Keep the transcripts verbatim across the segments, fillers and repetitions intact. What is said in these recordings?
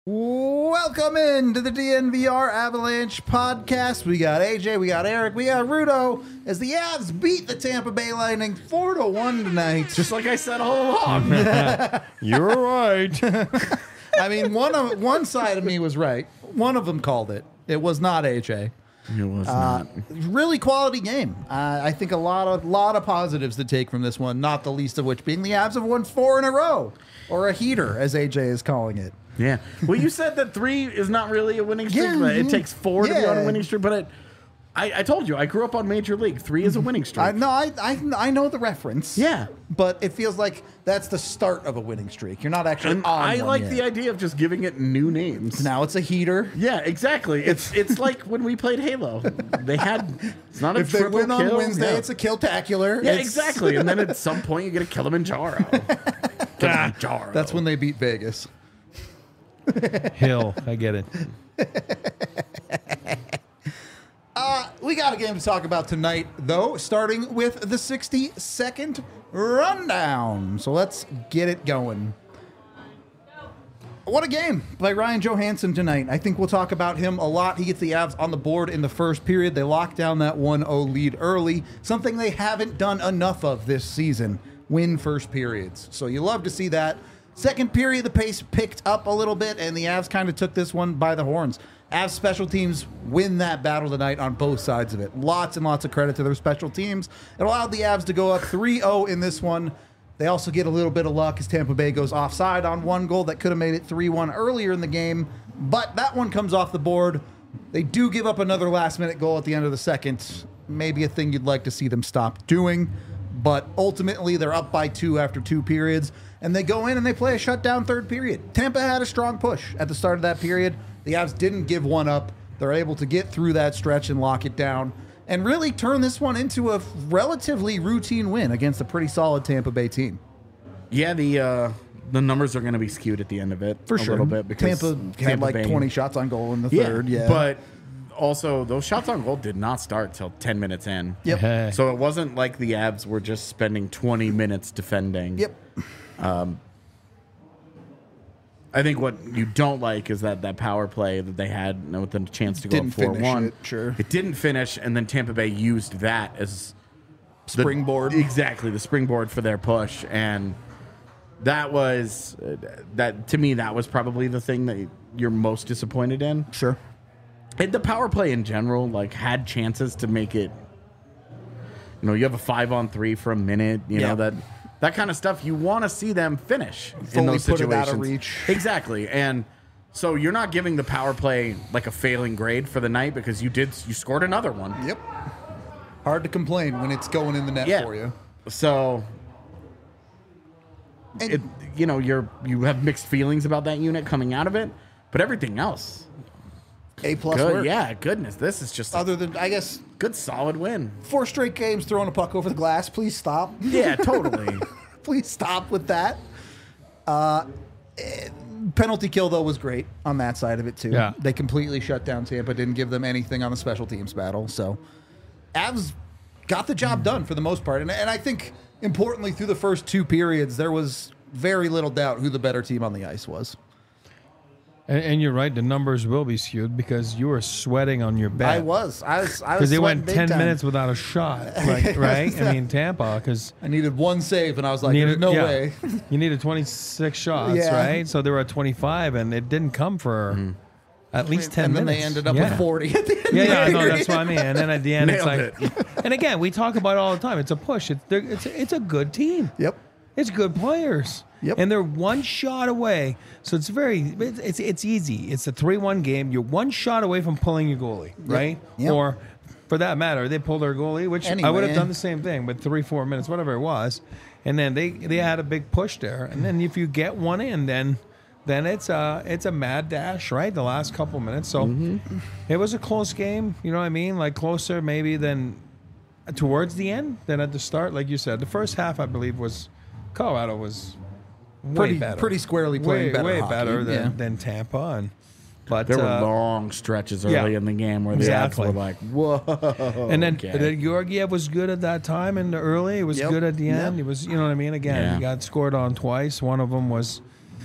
Welcome into the D N V R Avalanche podcast. We got A J, we got Eric, we got Rudo as the Avs beat the Tampa Bay Lightning four to one tonight. Just like I said all along. You're right. I mean, one of one side of me was right. One of them called it. It was not A J. It was Uh, not. really quality game. Uh, I think a lot of lot of positives to take from this one, not the least of which being the Avs have won four in a row, or a heater, as A J is calling it. Yeah. Well, you said that three is not really a winning streak, Yeah, but it yeah. takes four to be on a Yeah. winning streak. But it, I, I told you, I grew up on Major League. Three is a winning streak. I no, I, I I know the reference. Yeah. but it feels like that's the start of a winning streak. You're not actually and on I one like yet. the idea of just giving it new names. Now it's a heater. Yeah, exactly. It's it's like when we played Halo. They had it's not a If they triple win on kill. Wednesday, yeah. it's a killtacular. yeah, It's- exactly. And then at some point you get a Kilimanjaro. Kilimanjaro. That's when they beat Vegas. Hill, I get it. Uh, we got a game to talk about tonight, though, starting with the sixty-second rundown. So let's get it going. What a game by Ryan Johansson tonight. I think we'll talk about him a lot. He gets the Avs on the board in the first period. They lock down that one oh lead early, something they haven't done enough of this season, win first periods. So you love to see that. Second period, the pace picked up a little bit, and the Avs kind of took this one by the horns. Avs special teams win that battle tonight on both sides of it. Lots and lots of credit to their special teams. It allowed the Avs to go up three oh in this one. They also get a little bit of luck as Tampa Bay goes offside on one goal that could have made it three one earlier in the game, but that one comes off the board. They do give up another last-minute goal at the end of the second. Maybe a thing you'd like to see them stop doing, but ultimately they're up by two after two periods, and they go in and they play a shutdown third period. Tampa had a strong push at the start of that period. The Avs didn't give one up. They're able to get through that stretch and lock it down and really turn this one into a relatively routine win against a pretty solid Tampa Bay team. Yeah, the uh, the numbers are going to be skewed at the end of it For a sure. little bit because Tampa had like Bay- twenty shots on goal in the yeah, third. Yeah. But also, those shots on goal did not start till ten minutes in. Yep. Hey. So it wasn't like the Avs were just spending twenty minutes defending. Yep. I think what you don't like is that that power play that they had with the chance to go Didn't up four one. finish it, sure. It didn't finish, and then Tampa Bay used that as the- Springboard. exactly, the springboard for their push. And that was, uh, that to me, that was probably the thing that you're most disappointed in. Sure. And the power play in general, like, had chances to make it, you know, you have a five on three for a minute, you Yeah. know, that that kind of stuff. You want to see them finish in Fully those put it situations. out of reach. Exactly. And so you're not giving the power play like a failing grade for the night because you did, you scored another one. Yep. Hard to complain when it's going in the net Yeah. for you. So, And it, you know, you're, you have mixed feelings about that unit coming out of it, but everything else, A plus good. work. Yeah, goodness. This is just a Other than, I guess, good, solid win. four straight games throwing a puck over the glass. Please stop. Yeah, totally. Please stop with that. Uh, eh, penalty kill, though, was great on that side of it, too. Yeah. They completely shut down Tampa, didn't give them anything on the special teams battle. So, Avs got the job done for the most part. And, and I think, importantly, through the first two periods, there was very little doubt who the better team on the ice was. And, and you're right, the numbers will be skewed because you were sweating on your bet. I was. I was. I was Because they sweating went big ten time. minutes without a shot, like, right? I mean, Tampa, because I needed one save, and I was like, "There's no way." you needed twenty-six shots, Yeah. right? So they were at twenty-five, and it didn't come for at least ten and then minutes. they ended up yeah. with forty at the end. Yeah, of the yeah, no, period. that's what I mean. And then at the end, it's Nailed like, and again, we talk about it all the time. It's a push. It's they're- it's a, it's a good team. Yep. It's good players. Yep. And they're one shot away. So it's very, it's it's, it's easy. It's a three one game. You're one shot away from pulling your goalie, right? Yep. Or for that matter, they pulled their goalie, which I would Anyway. have done the same thing, but three, four minutes, whatever it was. And then they, they had a big push there. And then if you get one in, then then it's a, it's a mad dash, right? The last couple minutes. So it was a close game. You know what I mean? Like closer maybe than towards the end than at the start. Like you said, the first half, I believe, was Colorado was way Pretty- better. pretty squarely playing way, better way hockey, better than, yeah. than Tampa. And but There were uh, long stretches early yeah. in the game where the Exactly. Avs were like, whoa. and then, okay. and then Georgiev was good at that time in the early. It was Yep. good at the end. Yep. It was, you know what I mean? Again, Yeah. he got scored on twice. One of them was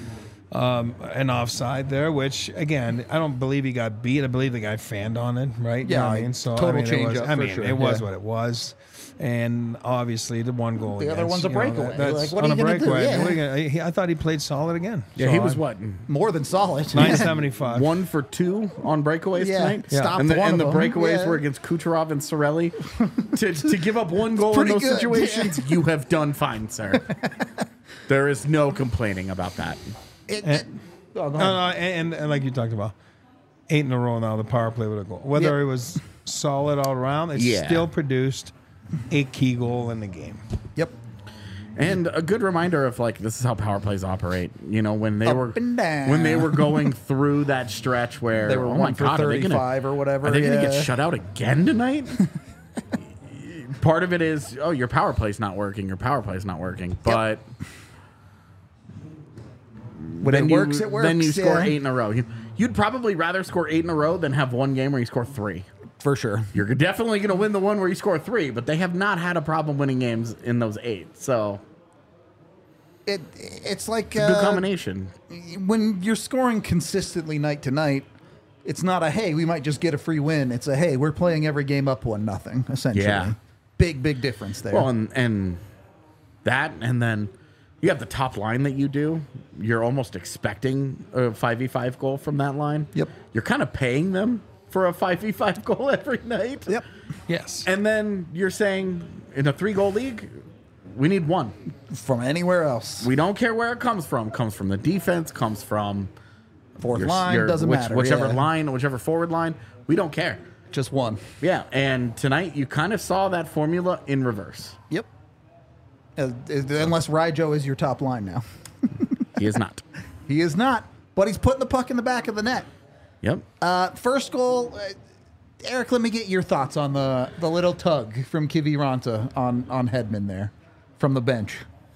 um, an offside there, which again, I don't believe he got beat. I believe the guy fanned on it, right? You Yeah, know what I mean, so total I mean, it change was, up I for mean, sure, it was yeah. what it was. And obviously, the one goal. The other against, one's a you know, breakaway. that- that's Like, what are on you a gonna do? breakaway. Yeah. What are you gonna- he- I thought he played solid again. Yeah, So he was I- what More than solid. nine seventy-five. one for two on breakaways Yeah, tonight. Yeah. stopped and the, one and the of them. breakaways Yeah. were against Kucherov and Sorelli. to to give up one goal in pretty those good, situations, you have done fine, sir. There is no complaining about that. It- And- it- oh, go No, ahead. no, and, and like you talked about, eight in a row now, the power play with a goal. Whether Yep. it was solid all around, it Yeah. still produced a key goal in the game. Yep. And a good reminder of like this is how power plays operate. You know when they Up were and down. when they were going through that stretch where They were oh my one for God, are they gonna- thirty-five or whatever. Are they going to yeah. get shut out again tonight? Part of it is oh your power play's not working. Your power play's not working. But When then it you, works, it works. Then you score yeah. eight in a row. You, you'd probably rather score eight in a row than have one game where you score three. For sure. You're definitely going to win the one where you score three, but they have not had a problem winning games in those eight. So It It's like good uh, combination. when you're scoring consistently night to night, it's not a, hey, we might just get a free win. It's a, hey, we're playing every game up one nothing, essentially. Yeah. Big, big difference there. Well, and, and that, and then you have the top line that you do. You're almost expecting a five v five goal from that line. Yep. You're kind of paying them for a five v five goal every night. Yep. Yes. And then you're saying in a three goal league, we need one. From anywhere else. We don't care where it comes from. Comes from the defense, comes from Fourth your- line, your- doesn't which- matter. Whichever yeah. line, whichever forward line. We don't care. Just one. Yeah. And tonight you kind of saw that formula in reverse. Yep. Uh, unless Ryjo is your top line now. He is not. He is not, but he's putting the puck in the back of the net. Yep. Uh, first goal, uh, Eric, let me get your thoughts on the, the little tug from Kiviranta on, on Hedman there from the bench.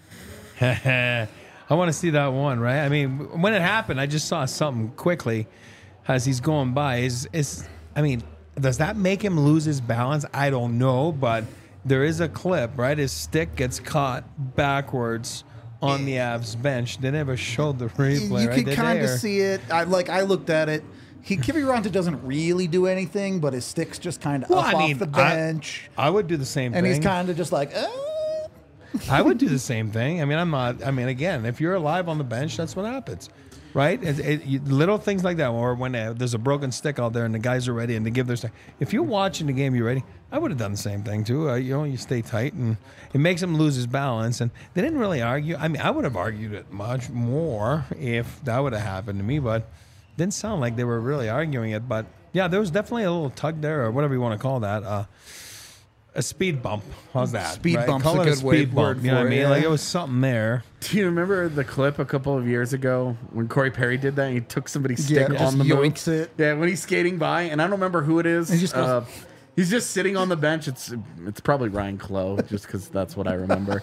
I want to see that one, right? I mean, when it happened, I just saw something quickly as he's going by. Is is I mean, does that make him lose his balance? I don't know, but there is a clip, right? His stick gets caught backwards on the Avs bench. They never showed the replay, you right? can Did kind they, of or- see it. I like. I looked at it. He Kiviranta doesn't really do anything, but his stick's just kind of Well, up I mean, off the I- bench, I would do the same and thing. he's kind of just like, uh, I would do the same thing. I mean, I'm not. I mean, again, if you're alive on the bench, that's what happens, right? It, it, you, little things like that, or when uh, there's a broken stick out there and the guys are ready and they give their stick. If you're watching the game, you're ready. I would have done the same thing too. Uh, you know, you stay tight, and it makes him lose his balance. And they didn't really argue. I mean, I would have argued it much more if that would have happened to me, but it didn't sound like they were really arguing it. But yeah, there was definitely a little tug there, or whatever you want to call that. Uh, A speed bump. How's that? Speed right? bump's Call a it good speed way- bump. word You know for what I it, mean? Like yeah. it was something there. Do you remember the clip a couple of years ago when Corey Perry did that? He took somebody's stick Yeah, just on the move. yoinks it. Yeah, when he's skating by, and I don't remember who it is. He just goes- uh, he's just sitting on the bench. It's it's probably Ryan Clough, just because that's what I remember.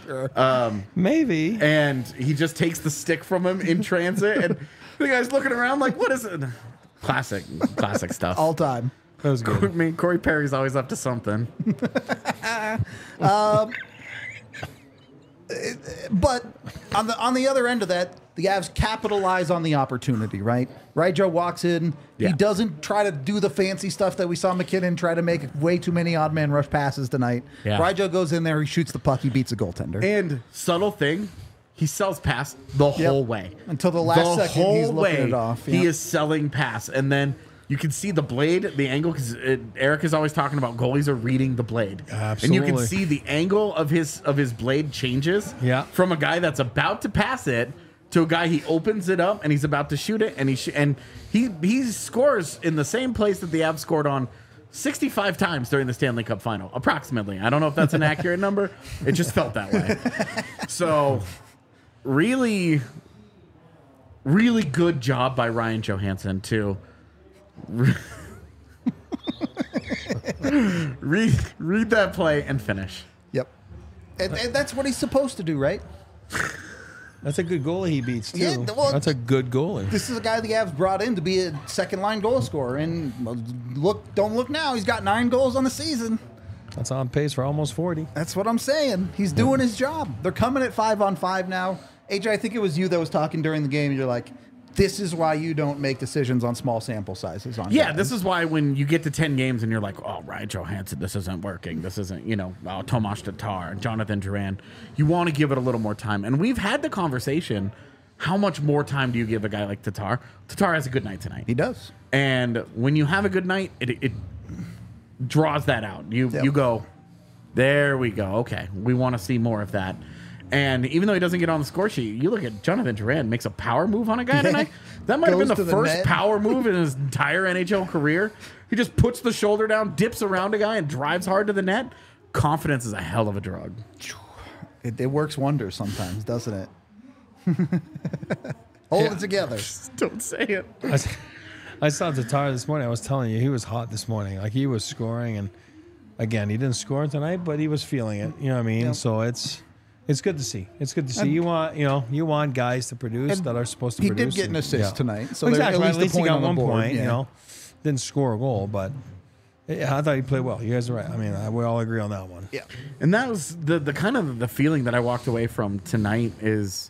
Maybe. And he just takes the stick from him in transit, and the guy's looking around like, "What is it?" Classic, classic stuff. all time. That was I good. mean, Corey Perry's always up to something. But on the on the other end of that, the Avs capitalize on the opportunity, right? Ryjo walks in. Yeah. He doesn't try to do the fancy stuff that we saw McKinnon try to make way too many odd man rush passes tonight. Yeah. Ryjo goes in there, he shoots the puck, he beats a goaltender. And subtle thing, he sells pass the whole way. Until the last second, he's looking it off, He yeah. is selling pass, and then you can see the blade, the angle. Because Eric is always talking about goalies are reading the blade, and you can Absolutely. see the angle of his of his blade changes. Yeah. From a guy that's about to pass it to a guy he opens it up and he's about to shoot it, and he sh- and he he scores in the same place that the Avs scored on sixty-five times during the Stanley Cup final, approximately. I don't know if that's an accurate number. It just felt that way. So, really, really good job by Ryan Johansson to read read that play and finish. Yep. And, and that's what he's supposed to do, right? That's a good goalie he beats too. Yeah, well- That's a good goalie. This is a guy the Avs brought in to be a second line goal scorer. And well, look, don't look now. He's got nine goals on the season. That's on pace for almost forty. That's what I'm saying. He's doing his job. They're coming at five on five now. A J, I think it was you that was talking during the game. You're like, this is why you don't make decisions on small sample sizes. On Yeah, guys. this is why when you get to ten games and you're like, oh, Ryan Johansson, this isn't working. This isn't, you know, oh, Tomas Tatar, Jonathan Duran. You want to give it a little more time. And we've had the conversation, how much more time do you give a guy like Tatar? Tatar has a good night tonight. He does. And when you have a good night, it, it draws that out. You Yep. you go, there we go. Okay, we want to see more of that. And even though he doesn't get on the score sheet, you look at Jonathan Duran makes a power move on a guy tonight. That might have been Goes the to the first net. power move in his entire N H L career. He just puts the shoulder down, dips around a guy, and drives hard to the net. Confidence is a hell of a drug. It, it works wonders sometimes, doesn't it? Hold Yeah. it together. Don't say it. I, s- I saw Tatar this morning. I was telling you, he was hot this morning. Like, he was scoring, and again, he didn't score tonight, but he was feeling it. You know what I mean? Yep. So it's it's good to see. It's good to see. And- you want you know you want guys to produce And that are supposed to he produce. did get an and- assist yeah. tonight, so Well, there- exactly. at At least least, a he point got on the one board, point. yeah. You know, didn't score a goal, but yeah, I thought he played well. You guys are right. I mean, I, we all agree on that one. Yeah. And that was the the kind of the feeling that I walked away from tonight is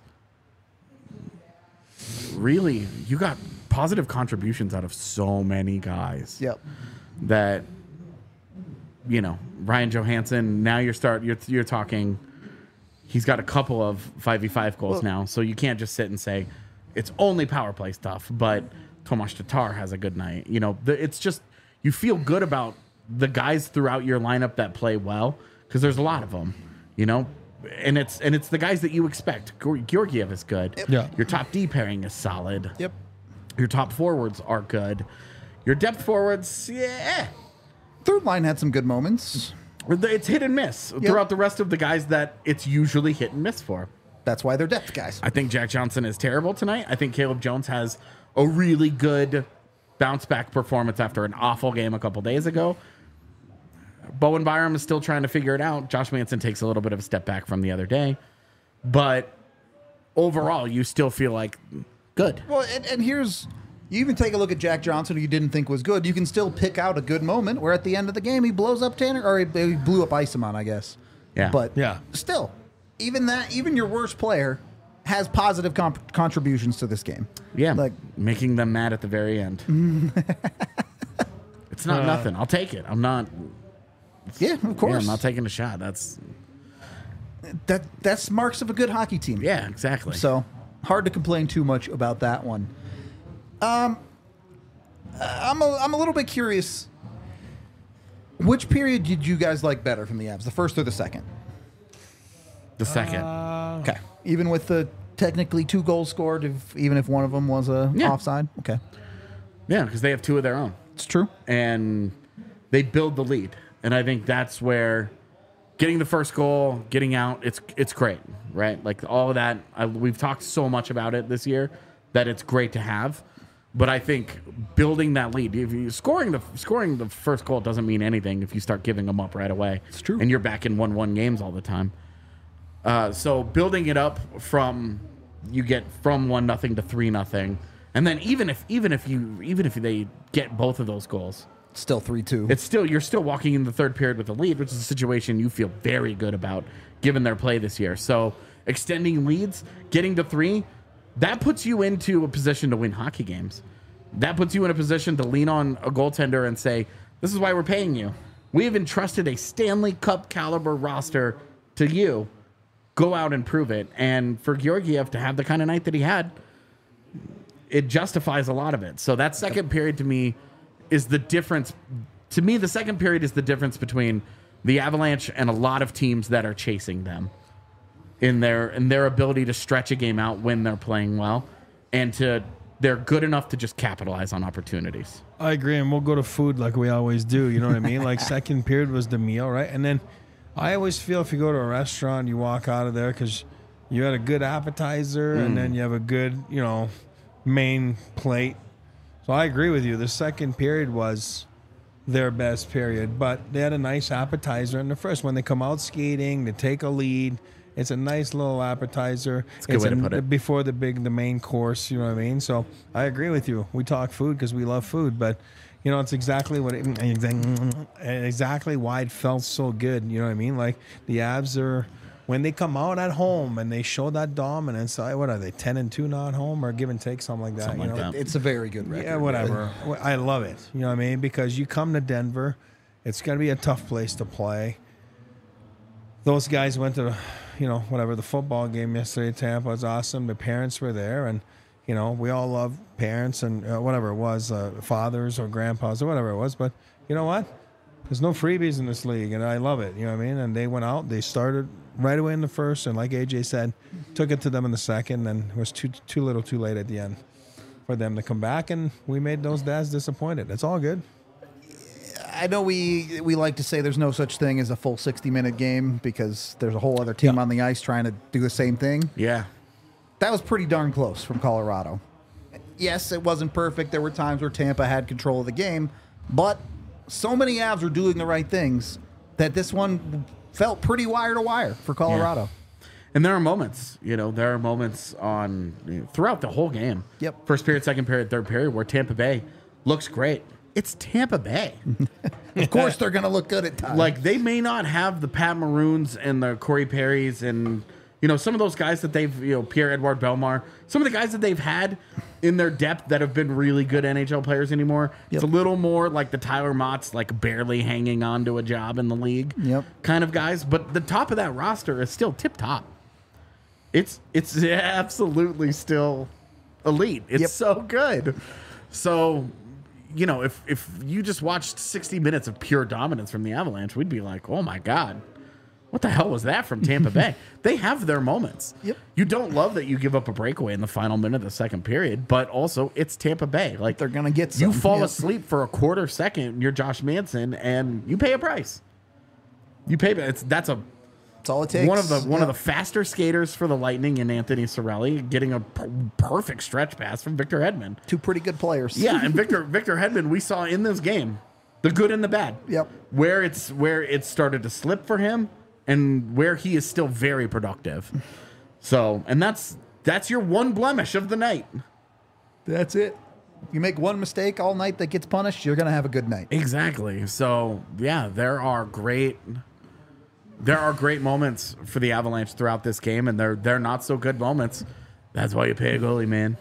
really you got positive contributions out of so many guys. Yep. That you know, Ryan Johansson, now you're start you're you're talking he's got a couple of five v five goals Well- now, so you can't just sit and say it's only power play stuff, but Tomas Tatar has a good night. You know, the, it's just you feel good about the guys throughout your lineup that play well because there's a lot of them, you know, and it's and it's the guys that you expect. Geor- Georgiev is good. Yeah. Your top D pairing is solid. Yep. Your top forwards are good. Your depth forwards, yeah, Third line had some good moments. it's hit and miss throughout the rest of the guys that it's usually hit and miss for. That's why they're depth guys. I think Jack Johnson is terrible tonight. I think Caleb Jones has a really good bounce back performance after an awful game a couple days ago. Bowen Byram is still trying to figure it out. Josh Manson takes a little bit of a step back from the other day. But overall, you still feel like good. Well, and, and here's you even take a look at Jack Johnson, who you didn't think was good. You can still pick out a good moment where at the end of the game he blows up Tanner, or he, he blew up Isamon, I guess. Yeah. But Yeah. still, even that, even your worst player has positive comp- contributions to this game. Yeah, Like, making them mad at the very end. It's not Uh, nothing. I'll take it. I'm not. yeah, of Yeah, course. I'm not taking a shot. That's that that's marks of a good hockey team. yeah, exactly. So hard to complain too much about that one. Um, I'm a, I'm a little bit curious. Which period did you guys like better from the Avs, the first or the second? the second. Uh, Okay, even with the technically two goals scored, if, even if one of them was a Yeah. offside. Okay, Yeah, because they have two of their own. it's true. And they build the lead. And I think that's where getting the first goal, getting out, it's it's great, right? Like all of that. I, we've talked so much about it this year that it's great to have. But I think building that lead, if you scoring the scoring the first goal doesn't mean anything if you start giving them up right away. It's true. And you're back in one one games all the time. Uh, so building it up from you get from one nothing to three nothing, and then even if even if you even if they get both of those goals, Still three two. it's still you're still walking in the third period with a lead, which is a situation you feel very good about given their play this year. So extending leads, getting to three, that puts you into a position to win hockey games. That puts you in a position to lean on a goaltender and say, "This is why we're paying you. We have entrusted a Stanley Cup caliber roster to you. Go out and prove it." And for Georgiev to have the kind of night that he had, it justifies a lot of it. So that second period to me is the difference. To me, the second period is the difference between the Avalanche and a lot of teams that are chasing them in their in their ability to stretch a game out when they're playing well, and to they're good enough to just capitalize on opportunities. I agree, and we'll go to food like we always do. You know what I mean? Like second period was the meal, right? And then I always feel if you go to a restaurant, you walk out of there because you had a good appetizer, and then you have a good, you know, main plate. So I agree with you. The second period was their best period, but they had a nice appetizer in the first. When they come out skating, they take a lead. It's a nice little appetizer. It's a good way to put it. Before the big, the main course, you know what I mean? So I agree with you. We talk food because we love food, but you know, it's exactly what it, exactly why it felt so good. You know what I mean? Like the Avs are, when they come out at home and they show that dominance, I- what are they, ten and two now at home or give and take, something like that? Something you like know? that. It's a very good record. Yeah, whatever. I love it. You know what I mean? Because you come to Denver, it's going to be a tough place to play. Those guys went to, you know, whatever, the football game yesterday. Tampa was awesome. The parents were there, and, you know, we all love parents and uh, whatever it was, uh, fathers or grandpas or whatever it was. But you know what? There's no freebies in this league, and I love it. You know what I mean? And they went out. They started right away in the first, and like A J said, took it to them in the second, and it was too too little too late at the end for them to come back, and we made those dads disappointed. It's all good. I know we we like to say there's no such thing as a full sixty minute game because there's a whole other team Yeah. on the ice trying to do the same thing. Yeah. That was pretty darn close from Colorado. Yes, it wasn't perfect. There were times where Tampa had control of the game, but so many Avs were doing the right things that this one felt pretty wire to wire for Colorado. And there are moments, you know, there are moments on you know, throughout the whole game. Yep. First period, second period, third period, where Tampa Bay looks great. It's Tampa Bay. Of course, they're going to look good at times. Like, they may not have the Pat Maroons and the Corey Perrys and, you know, some of those guys that they've, you know, Pierre-Edouard Bellemare, some of the guys that they've had in their depth that have been really good N H L players anymore. It's a Yep. little more like the Tyler Motts, like barely hanging on to a job in the league Yep. kind of guys. But the top of that roster is still tip-top. It's it's absolutely still elite. It's Yep. so good. So, you know, if if you just watched sixty minutes of pure dominance from the Avalanche, we'd be like, oh my God, what the hell was that from Tampa Bay? They have their moments. Yep. You don't love that you give up a breakaway in the final minute of the second period, but also it's Tampa Bay. Like, They're gonna get you some. fall Yep. asleep for a quarter second, you're Josh Manson, and you pay a price. You pay it's that's a That's all it takes. one of the one Yep. of the faster skaters for the Lightning in Anthony Cirelli, getting a per- perfect stretch pass from Victor Hedman. Two pretty good players. Yeah, and Victor Victor Hedman, we saw in this game the good and the bad. Yep. Where it's where it started to slip for him, and where he is still very productive. So, and that's that's your one blemish of the night. That's it. You make one mistake all night that gets punished, you're going to have a good night. Exactly. So, yeah, there are great there are great moments for the Avalanche throughout this game, and they're they're not so good moments. That's why you pay a goalie, man.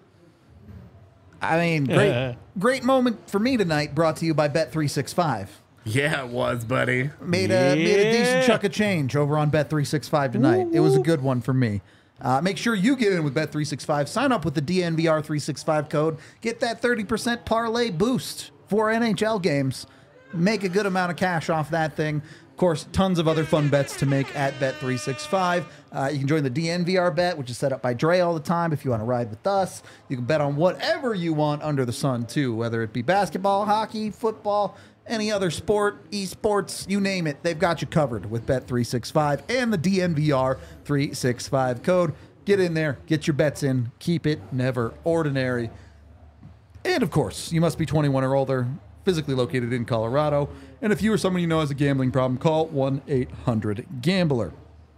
I mean, great, great moment for me tonight. Brought to you by Bet three sixty-five. Yeah, it was, buddy. Made a made a decent chunk of change over on Bet three sixty-five tonight. It was a good one for me. Uh, make sure you get in with Bet three sixty-five. Sign up with the D N V R three sixty-five code. Get that thirty percent parlay boost for N H L games. Make a good amount of cash off that thing. Of course, tons of other fun bets to make at Bet three sixty-five. Uh, you can join the D N V R bet, which is set up by Dre all the time if you want to ride with us. You can bet on whatever you want under the sun, too, whether it be basketball, hockey, football, any other sport, esports, you name it. They've got you covered with Bet three sixty-five and the D N V R three sixty-five code. Get in there, get your bets in, keep it never ordinary. And, of course, you must be twenty-one or older, physically located in Colorado. And if you or someone you know has a gambling problem, call one eight hundred gambler.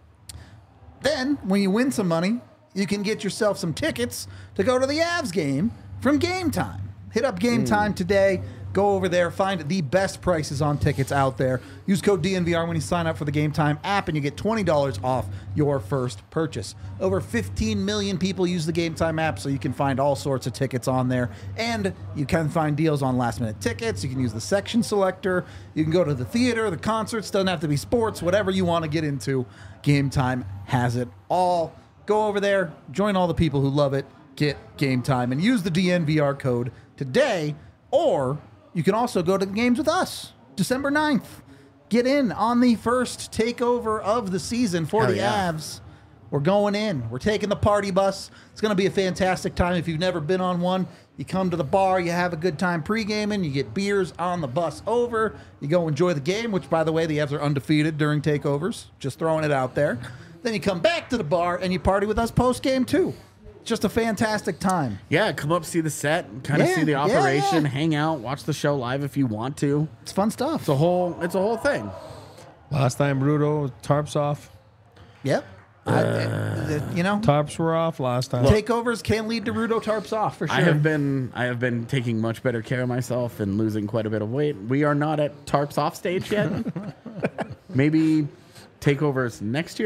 Then, when you win some money, you can get yourself some tickets to go to the Avs game from Game Time. Hit up Game Time today. Go over there, find the best prices on tickets out there. Use code D N V R when you sign up for the Game Time app, and you get twenty dollars off your first purchase. Over fifteen million people use the Game Time app, so you can find all sorts of tickets on there. And you can find deals on last-minute tickets. You can use the section selector. You can go to the theater, the concerts. Doesn't have to be sports. Whatever you want to get into, Game Time has it all. Go over there, join all the people who love it, get Game Time, and use the D N V R code today, or you can also go to the games with us, December ninth. Get in on the first takeover of the season for Hell the yeah. Avs. We're going in. We're taking the party bus. It's going to be a fantastic time. If you've never been on one, you come to the bar, you have a good time pre-gaming, you get beers on the bus over, you go enjoy the game, which, by the way, the Avs are undefeated during takeovers. Just throwing it out there. Then you come back to the bar and you party with us post-game, too. Just a fantastic time. Yeah, come up, see the set, kind of Yeah, see the yeah, operation, yeah. hang out, watch the show live if you want to. It's fun stuff. It's a whole it's a whole thing. Last time, Rudo, tarps off. Yep. I, uh, you know, Tarps were off last time. takeovers can lead to Rudo tarps off for sure. I have been I have been taking much better care of myself and losing quite a bit of weight. We are not at tarps off stage yet. Maybe takeovers next year.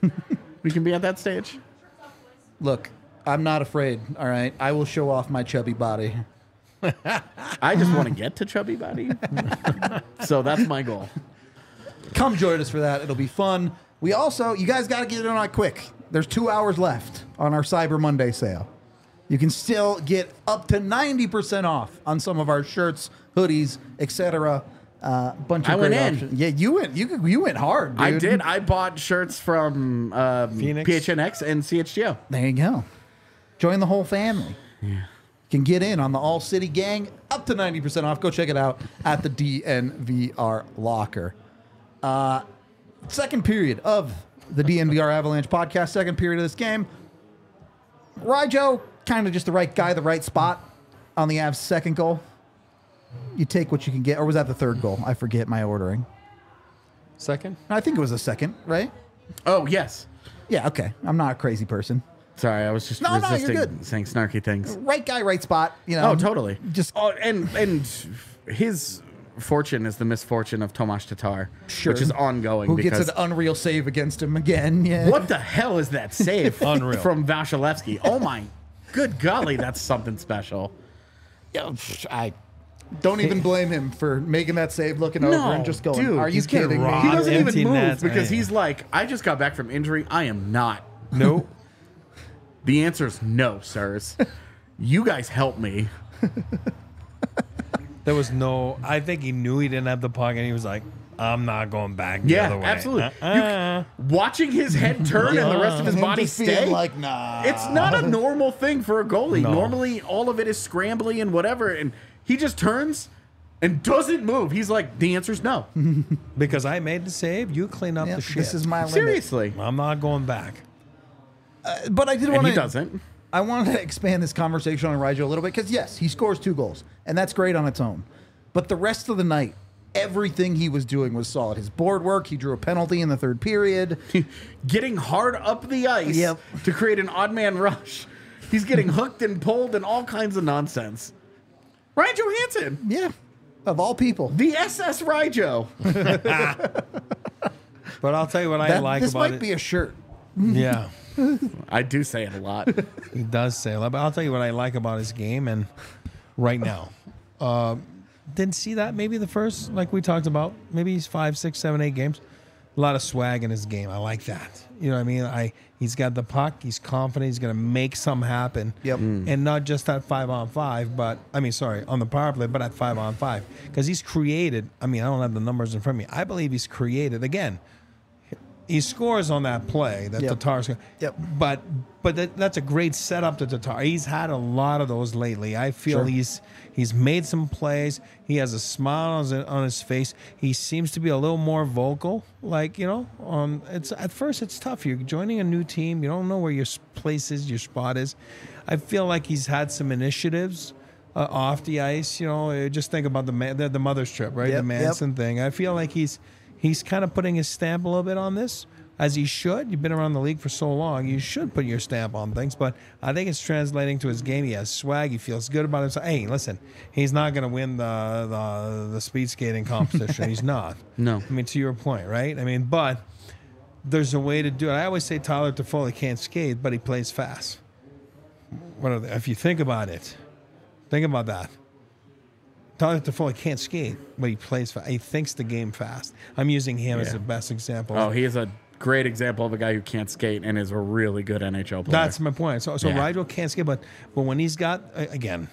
We can be at that stage. Look, I'm not afraid. All right, I will show off my chubby body. I just want to get to chubby body. So that's my goal. Come join us for that. It'll be fun. We also, you guys got to get in on it quick. There's two hours left on our Cyber Monday sale. You can still get up to ninety percent off on some of our shirts, hoodies, et cetera. Uh, bunch of I great went in. options. Yeah, you went. You you went hard, dude. I did. I bought shirts from um, Phoenix. P H N X and C H G O. There you go. Join the whole family. Yeah. Can get in on the All City Gang up to ninety percent off. Go check it out at the D N V R Locker. Uh, second period of the D N V R Avalanche podcast. Second period of this game. Ryjo, kind of just the right guy, the right spot on the Avs' second goal. You take what you can get. Or was that the third goal? I forget my ordering. Second? I think it was the second, right? Oh, yes. Yeah, okay. I'm not a crazy person. Sorry, I was just No, no, you're resisting good. saying snarky things. Right guy, right spot. You know. Oh, totally. Just oh, and and his fortune is the misfortune of Tomas Tatar, Sure. which is ongoing. who because gets an unreal save against him again? Yeah. what the hell is that save Unreal. from Vasilevsky? Oh my, good golly, that's something special. Yeah, I don't even blame him for making that save, looking over No, and just going, dude, "Are you he's getting kidding me?" robbed. He doesn't empty even move nets, because man. he's like, I just got back from injury. I am not. Nope. The answer is no, sirs. You guys help me. There was no. I think he knew he didn't have the puck, and he was like, "I'm not going back the Yeah, other way." absolutely. Uh-uh. Watching his head turn and the rest of his Him body just being stay. like, nah. It's not a normal thing for a goalie. No. Normally, all of it is scrambly and whatever, and he just turns and doesn't move. He's like, the answer's no. Because I made the save, you clean up Yeah, the shit. this is my limit. Seriously. I'm not going back. But I did And want he to. doesn't. I wanted to expand this conversation on Ryjo a little bit because yes, he scores two goals, and that's great on its own. But the rest of the night, everything he was doing was solid. His board work, he drew a penalty in the third period. Getting hard up the ice Yep. to create an odd man rush. He's getting hooked and pulled and all kinds of nonsense. Ryan Johansson, Yeah, of all people. the S S Ryjo. But I'll tell you what I That- like this about might it. be a shirt. yeah, I do say it a lot. he does say a lot. But I'll tell you what I like about his game, and right now, uh, didn't see that maybe the first, like we talked about, maybe he's five, six, seven, eight games. A lot of swag in his game. I like that. You know what I mean? I he's got the puck. He's confident. He's gonna make something happen. Yep. Mm. And not just at five on five, but I mean, sorry, on the power play, but at five on five, because he's created. I mean, I don't have the numbers in front of me. I believe he's created again. He scores on that play that Yep. Tatar's. Yep. But but that, that's a great setup to Tatar. He's had a lot of those lately. I feel Sure. he's he's made some plays. He has a smile on his, on his face. He seems to be a little more vocal. Like you know, um, it's at first it's tough. You're joining a new team. You don't know where your s- place is, your spot is. I feel like he's had some initiatives. Uh, off the ice, you know, uh, just think about the man, the, the mother's trip, right? Yep, the Manson thing. I feel like he's he's kind of putting his stamp a little bit on this, as he should. You've been around the league for so long, you should put your stamp on things. But I think it's translating to his game. He has swag. He feels good about himself. Hey, listen, he's not going to win the, the the speed skating competition. He's not. No. I mean, to your point, right? I mean, but there's a way to do it. I always say Tyler Toffoli can't skate, but he plays fast. What are they? If you think about it, think about that. Tyler Toffoli can't skate, but he plays fast. He thinks the game fast. I'm using him as Yeah. the best example. Oh, he is a great example of a guy who can't skate and is a really good N H L player. That's my point. So, so Yeah. Rigel can't skate, but but when he's got uh, again,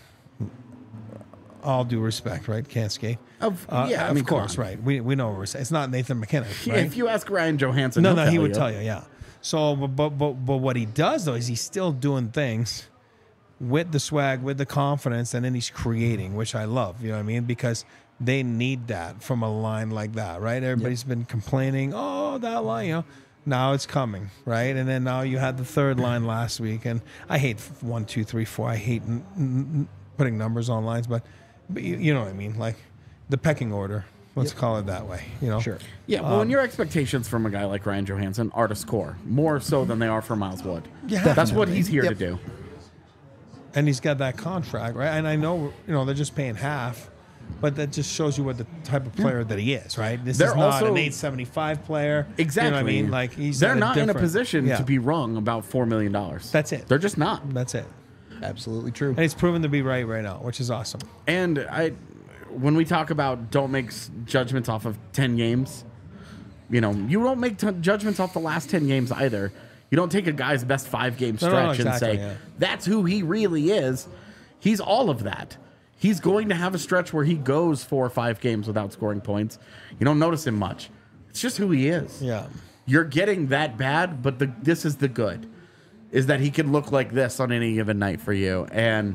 all due respect, right? Can't skate. Of- Uh, yeah, I of mean, come course, on. right? We we know what we're saying. It's not Nathan McKinnon, Yeah, right? if you ask Ryan Johansson, no, he'll no, tell he would you. tell you, yeah. So, but, but but but what he does though is he's still doing things with the swag, with the confidence, and then he's creating, which I love. You know what I mean? Because they need that from a line like that, right? Everybody's been complaining, oh, that line, you know. Now it's coming, right? And then now you had the third line last week, and I hate one, two, three, four. I hate n- n- putting numbers on lines, but, but you, you know what I mean, like the pecking order. Let's call it that way. You know, Sure. Yeah, well, and your expectations from a guy like Ryan Johansson are to score more so than they are for Miles Wood. Yeah, That's what definitely. he's here Yep. to do. And he's got that contract, right? And I know, you know, they're just paying half, but that just shows you what the type of player that he is, right? This They're is not also- an eight seventy-five player. Exactly. You know what I mean? Like he's They're at not in a different- position yeah. to be wrong about four million dollars. That's it. They're just not. That's it. Absolutely true. And he's proven to be right right now, which is awesome. And I, when we talk about don't make s- judgments off of ten games, you know, you don't make t- judgments off the last ten games either. You don't take a guy's best five game No, stretch no, no, exactly, and say yeah. that's who he really is. He's all of that. He's going to have a stretch where he goes four or five games without scoring points. You don't notice him much. It's just who he is. Yeah. You're getting that bad, but the this is the good, is that he can look like this on any given night for you. And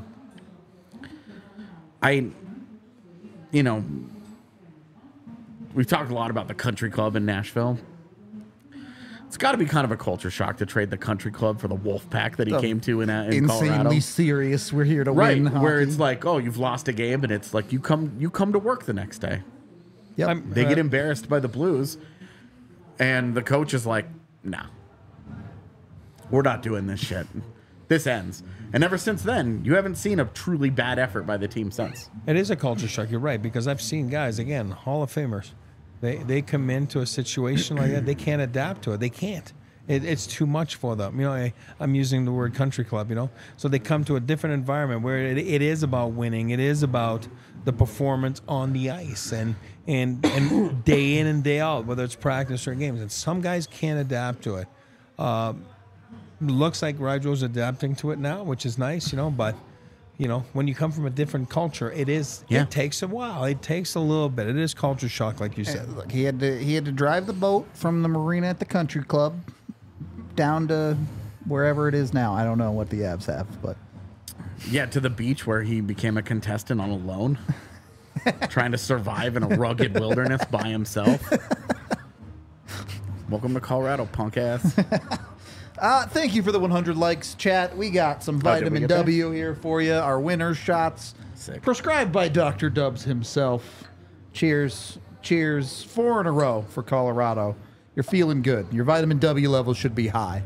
I, you know, we've talked a lot about the country club in Nashville. It's got to be kind of a culture shock to trade the country club for the Wolf Pack that he The came to in, uh, in Colorado. Insanely serious. We're here to Right, win. where hockey. it's like, oh, you've lost a game, and it's like you come you come to work the next day. Yep. I'm- They get Uh, embarrassed by the Blues, and the coach is like, nah, we're not doing this shit. This ends. And ever since then, you haven't seen a truly bad effort by the team since. It is a culture shock. You're right, because I've seen guys, again, Hall of Famers. They they come into a situation like that. They can't adapt to it. They can't. It, it's too much for them. You know, I, I'm using the word country club, you know. So they come to a different environment where it, it is about winning. It is about the performance on the ice and, and, and day in and day out, whether it's practice or games. And some guys can't adapt to it. Uh, looks like Rydro's adapting to it now, which is nice, you know, but you know, when you come from a different culture, it is Yeah. it takes a while. It takes a little bit. It is culture shock, like you said. Look, he had to he had to drive the boat from the marina at the country club down to wherever it is now. I don't know what the Avs have, but Yeah, to the beach where he became a contestant on a loan, trying to survive in a rugged wilderness by himself. Welcome to Colorado, punk ass. Uh, thank you for the one hundred likes, chat. We got some Oh, did we vitamin get that? W here for you. Our winner shots, Sick. prescribed by Doctor Dubs himself. Cheers, cheers, four in a row for Colorado. You're feeling good. Your vitamin W level should be high.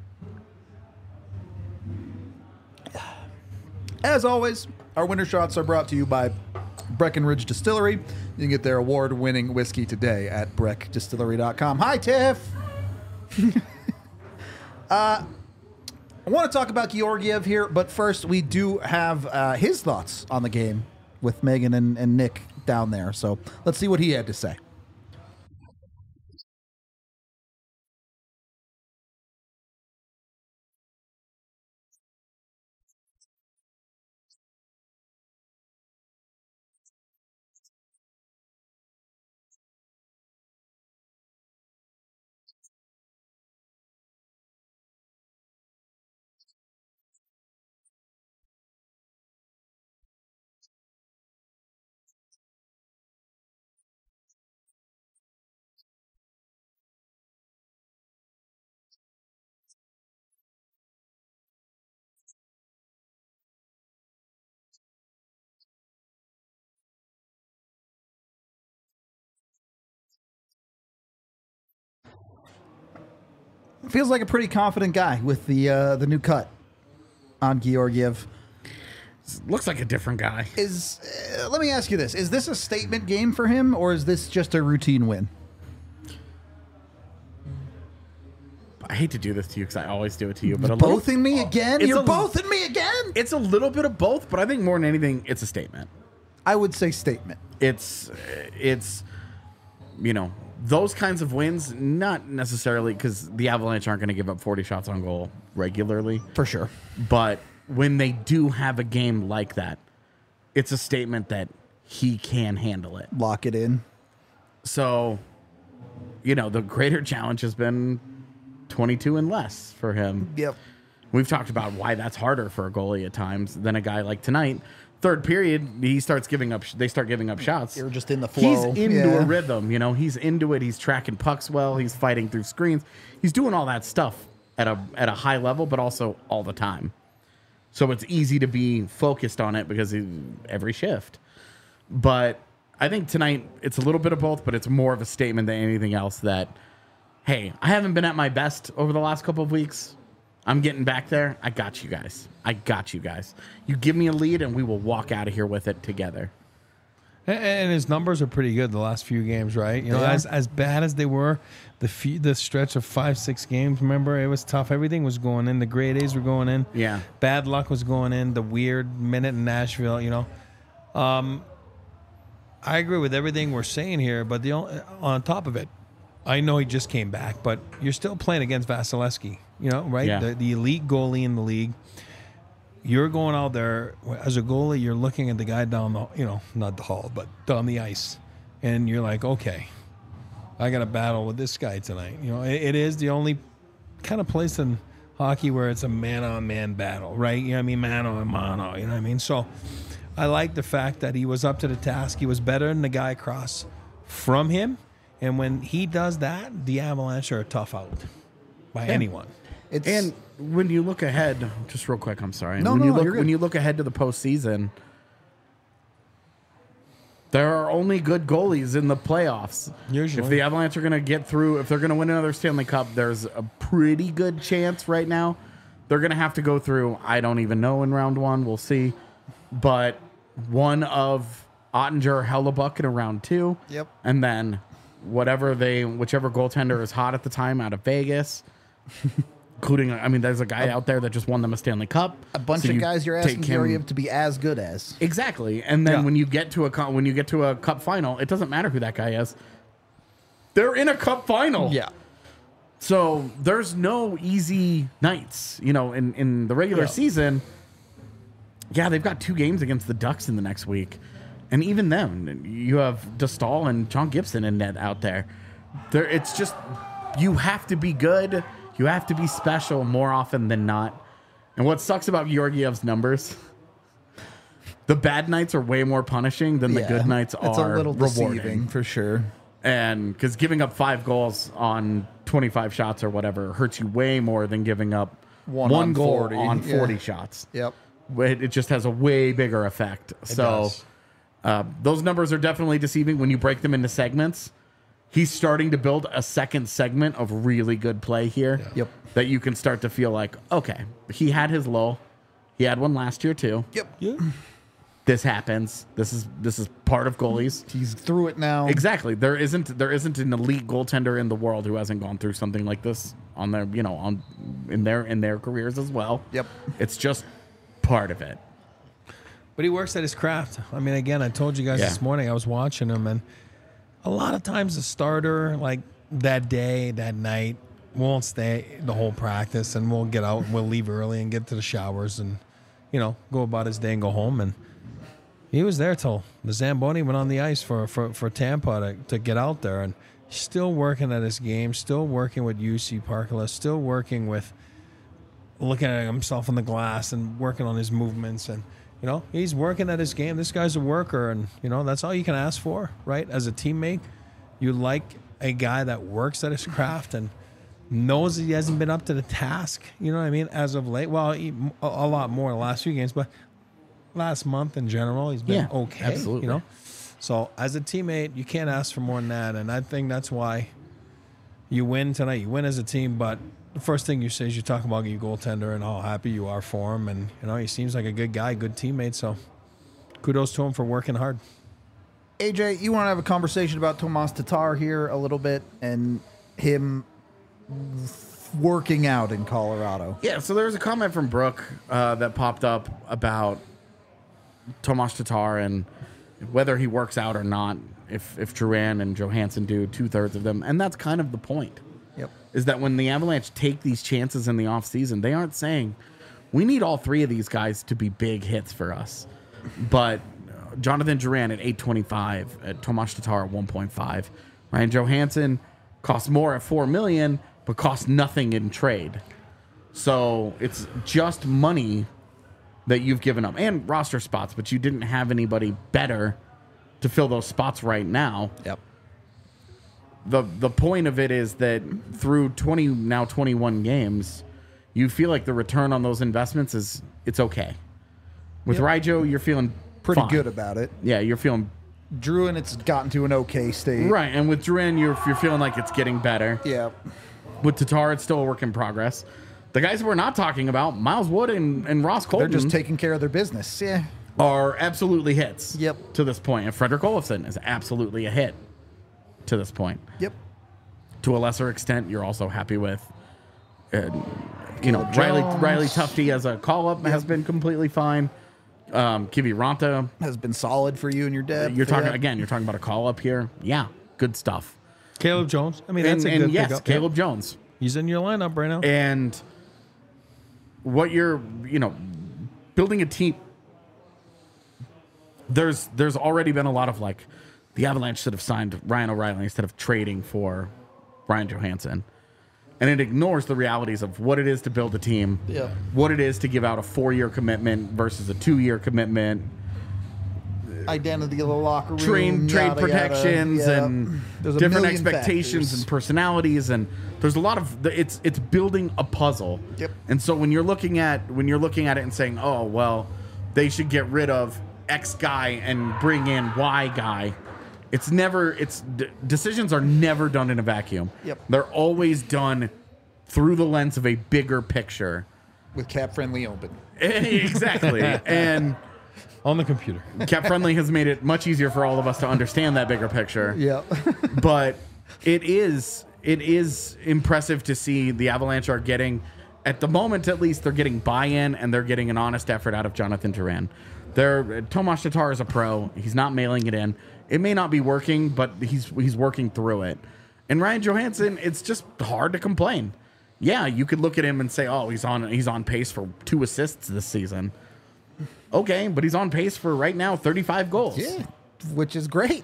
As always, our winner shots are brought to you by Breckenridge Distillery. You can get their award-winning whiskey today at breck distillery dot com. Hi, Tiff. I want to talk about Georgiev here, but first we do have uh, his thoughts on the game with Megan and, and Nick down there. So let's see what he had to say. Feels like a pretty confident guy with the uh, the new cut on Georgiev. Looks like a different guy. Is uh, let me ask you this: is this a statement game for him, or is this just a routine win? I hate to do this to you because I always do it to you, but a Both little, in me again? It's You're a- both in me again? It's a little bit of both, but I think more than anything, it's a statement. I would say statement. It's it's you know those kinds of wins, not necessarily because the Avalanche aren't going to give up forty shots on goal regularly, For sure. but when they do have a game like that, it's a statement that he can handle it. Lock it in. So, you know, the greater challenge has been twenty-two and less for him. Yep. We've talked about why that's harder for a goalie at times than a guy like tonight. Third period, he starts giving up. They start giving up shots. You're just in the He's flow. into Yeah. a rhythm. You know, he's into it. He's tracking pucks well. He's fighting through screens. He's doing all that stuff at a at a high level, but also all the time. So it's easy to be focused on it because he, every shift. But I think tonight it's a little bit of both, but it's more of a statement than anything else that, hey, I haven't been at my best over the last couple of weeks. I'm getting back there. I got you guys. I got you guys. You give me a lead and we will walk out of here with it together. And, and his numbers are pretty good the last few games, right? You know, Yeah. as as bad as they were, the few, the stretch of five, six games, remember, it was tough. Everything was going in. The grade A's were going in. Yeah. Bad luck was going in. The weird minute in Nashville, you know. Um, I agree with everything we're saying here, but the only, on top of it, I know he just came back, but you're still playing against Vasilevsky, you know, right? Yeah. The, the elite goalie in the league. You're going out there as a goalie. You're looking at the guy down the, you know, not the hall, but down the ice, and you're like, okay, I got to battle with this guy tonight. You know, it, it is the only kind of place in hockey where it's a man-on-man battle, right? You know what I mean? Mano-a-mano, you know what I mean? So I like the fact that he was up to the task. He was better than the guy across from him. And when he does that, the Avalanche are a tough out by anyone. It's And when you look ahead, just real quick, I'm sorry. No, when no, you no, look you're good. when you look ahead to the postseason, there are only good goalies in the playoffs. Usually. If the Avalanche are going to get through, if they're going to win another Stanley Cup, there's a pretty good chance right now. They're going to have to go through, I don't even know in round one. We'll see. But one of Ottinger or Hellebuck in round two. Yep. And then whatever they, whichever goaltender is hot at the time out of Vegas. Including, I mean, there's a guy out there that just won them a Stanley Cup. a bunch So of you guys you're take asking him- Georgiev to be as good as. Exactly, and then Yeah. when you get to a co- when you get to a cup final, it doesn't matter who that guy is. They're in a cup final. So there's no easy nights, you know, in, in the regular Yeah. season. Yeah, they've got two games against the Ducks in the next week. And even then, you have DeStahl and John Gibson in net out there. There it's just you have to be good. You have to be special more often than not. And what sucks about Georgiev's numbers, the bad nights are way more punishing than the good nights are It's a little rewarding. deceiving for sure. And because giving up five goals on twenty-five shots or whatever hurts you way more than giving up One one, on goal forty, on yeah. forty shots. Yep. It, it just has a way bigger effect. so does. uh, those numbers are definitely deceiving when you break them into segments. He's starting to build a second segment of really good play here. Yep. That you can start to feel like, okay, he had his low. He had one last year too. Yep. Yeah. This happens. This is this is part of goalies. He's through it now. Exactly. There isn't there isn't an elite goaltender in the world who hasn't gone through something like this on their you know on in their in their careers as well. Yep. It's just part of it. But he works at his craft. I mean, again, I told you guys Yeah. this morning, I was watching him, and a lot of times the starter, like that day, that night, won't stay the whole practice, and we'll get out and we'll leave early and get to the showers and, you know, go about his day and go home. And he was there till the Zamboni went on the ice for, for, for Tampa to, to get out there, and still working at his game, still working with U C Parkala, still working with looking at himself in the glass and working on his movements. And, you know, he's working at his game. This guy's a worker, and, you know, that's all you can ask for, right? As a teammate, you like a guy that works at his craft and knows he hasn't been up to the task, you know what I mean, as of late. Well, he, a, a lot more the last few games, but last month in general, he's been Yeah, okay, absolutely. you know? So as a teammate, you can't ask for more than that, and I think that's why you win tonight. You win as a team, but the first thing you say is you talk about your goaltender and how happy you are for him, and you know he seems like a good guy, good teammate. So kudos to him for working hard. A J, you want to have a conversation about Tomas Tatar here a little bit and him working out in Colorado? Yeah, so there was a comment from Brooke uh, that popped up about Tomas Tatar and whether he works out or not, if if Duran and Johansson do two-thirds of them. And that's kind of the point. Yep. Is that when the Avalanche take these chances in the offseason, they aren't saying, we need all three of these guys to be big hits for us. But uh, Jonathan Duran at eight twenty-five, at Tomas Tatar at one point five. Ryan Johansson costs more at four million dollars, but costs nothing in trade. So it's just money that you've given up. And roster spots, but you didn't have anybody better to fill those spots right now. Yep. The the point of it is that through twenty now twenty-one games, you feel like the return on those investments is it's okay. With Yep. Rijo, you're feeling Pretty fine. good about it. Yeah, you're feeling Drew, and it's gotten to an okay state. right, and with Duran, you're you're feeling like it's getting better. Yeah. With Tatar, it's still a work in progress. The guys we're not talking about, Miles Wood and, and Ross Colton, They're just taking care of their business. Yeah. are absolutely hits. Yep. To this point, and Frederick Olofsson is absolutely a hit to this point. Yep. To a lesser extent, you're also happy with, uh, you know, Caleb Riley Jones. Riley Tufte as a call up has been completely fine. Um, Kivi Ranta, Has been solid for you and your dad. you're talking Yeah. again. You're talking about a call up here. Yeah, good stuff. Caleb Jones. I mean, And, that's a and good yes, pickup. Caleb Jones. He's in your lineup right now. And what you're, you know, building a team. There's there's already been a lot of like, the Avalanche should have signed Ryan O'Reilly instead of trading for Ryan Johansson. And it ignores the realities of what it is to build a team, Yeah. what it is to give out a four-year commitment versus a two-year commitment, Identity of the locker room. train trade yada, protections yada. Yeah. and There's a different million expectations factors. and personalities, and there's a lot of it's it's building a puzzle. Yep. And so when you're looking at when you're looking at it and saying, oh well, they should get rid of X guy and bring in Y guy. It's never, it's d- decisions are never done in a vacuum. Yep. They're always done through the lens of a bigger picture. With cap friendly open. Exactly. And On the computer. Cap Friendly has made it much easier for all of us to understand that bigger picture. Yeah. But it is, it is impressive to see the Avalanche are getting, at the moment at least, they're getting buy-in and they're getting an honest effort out of Jonathan Duran. They're, Tomas Tatar is a pro. He's not mailing it in. It may not be working, but he's he's working through it. And Ryan Johansson, it's just hard to complain. Yeah, you could look at him and say, "Oh, he's on he's on pace for two assists this season." Okay, but he's on pace for right now thirty-five goals. Yeah. Which is great.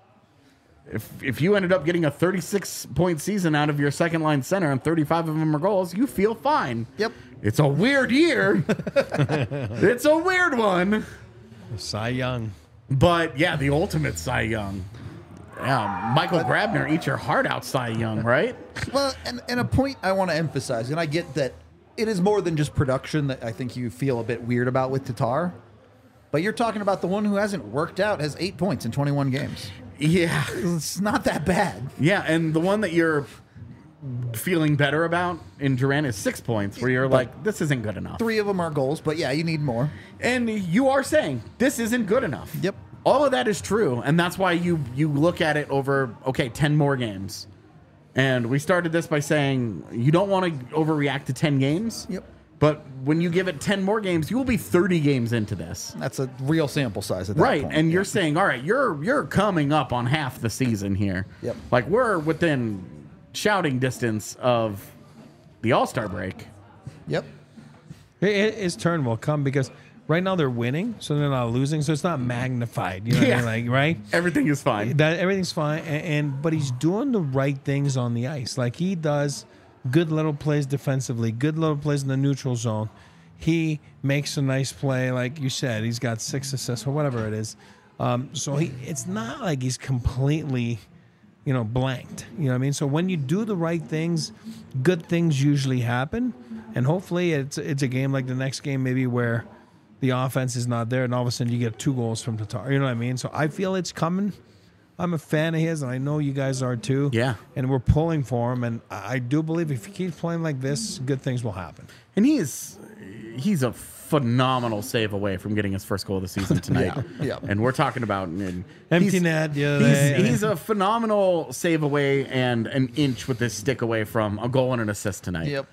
If if you ended up getting a thirty-six point season out of your second line center and thirty-five of them are goals, you feel fine. Yep. It's a weird year. It's a weird one. Cy Young. But yeah, the ultimate Cy Young. Yeah, Michael Grabner, eat your heart out, Cy Young, right? Well, and, and a point I want to emphasize, and I get that it is more than just production that I think you feel a bit weird about with Tatar, but you're talking about the one who hasn't worked out, has eight points in twenty-one games. Yeah. It's not that bad. Yeah, and the one that you're feeling better about in Duran is six points, where you're like, this isn't good enough. Three of them are goals, but yeah, you need more. And you are saying this isn't good enough. Yep. All of that is true, and that's why you you look at it over, okay, ten more games. And we started this by saying you don't want to overreact to ten games. Yep. But when you give it ten more games, you will be thirty games into this. That's a real sample size at that Right. point. And Yeah. you're saying, all right, you're you're coming up on half the season here. Yep. Like we're within shouting distance of the All-Star break. Yep. It- it- His turn will come because right now they're winning, so they're not losing, so it's not magnified. You know Yeah. what I mean? Like, right? Everything is fine. That everything's fine, and, and but he's doing the right things on the ice. Like he does good little plays defensively, good little plays in the neutral zone. He makes a nice play, like you said. He's got six assists or whatever it is. Um, so he, it's not like he's completely, you know, blanked. You know what I mean? So when you do the right things, good things usually happen, and hopefully it's it's a game like the next game, maybe where the offense is not there, and all of a sudden you get two goals from Tatar. You know what I mean? So I feel it's coming. I'm a fan of his, and I know you guys are too. Yeah. And we're pulling for him, and I I do believe if he keeps playing like this, good things will happen. And he is he's a phenomenal save away from getting his first goal of the season tonight. Yeah, yeah. And we're talking about and Empty he's- net, yeah, He's, yeah, yeah. he's a phenomenal save away and an inch with his stick away from a goal and an assist tonight. Yep.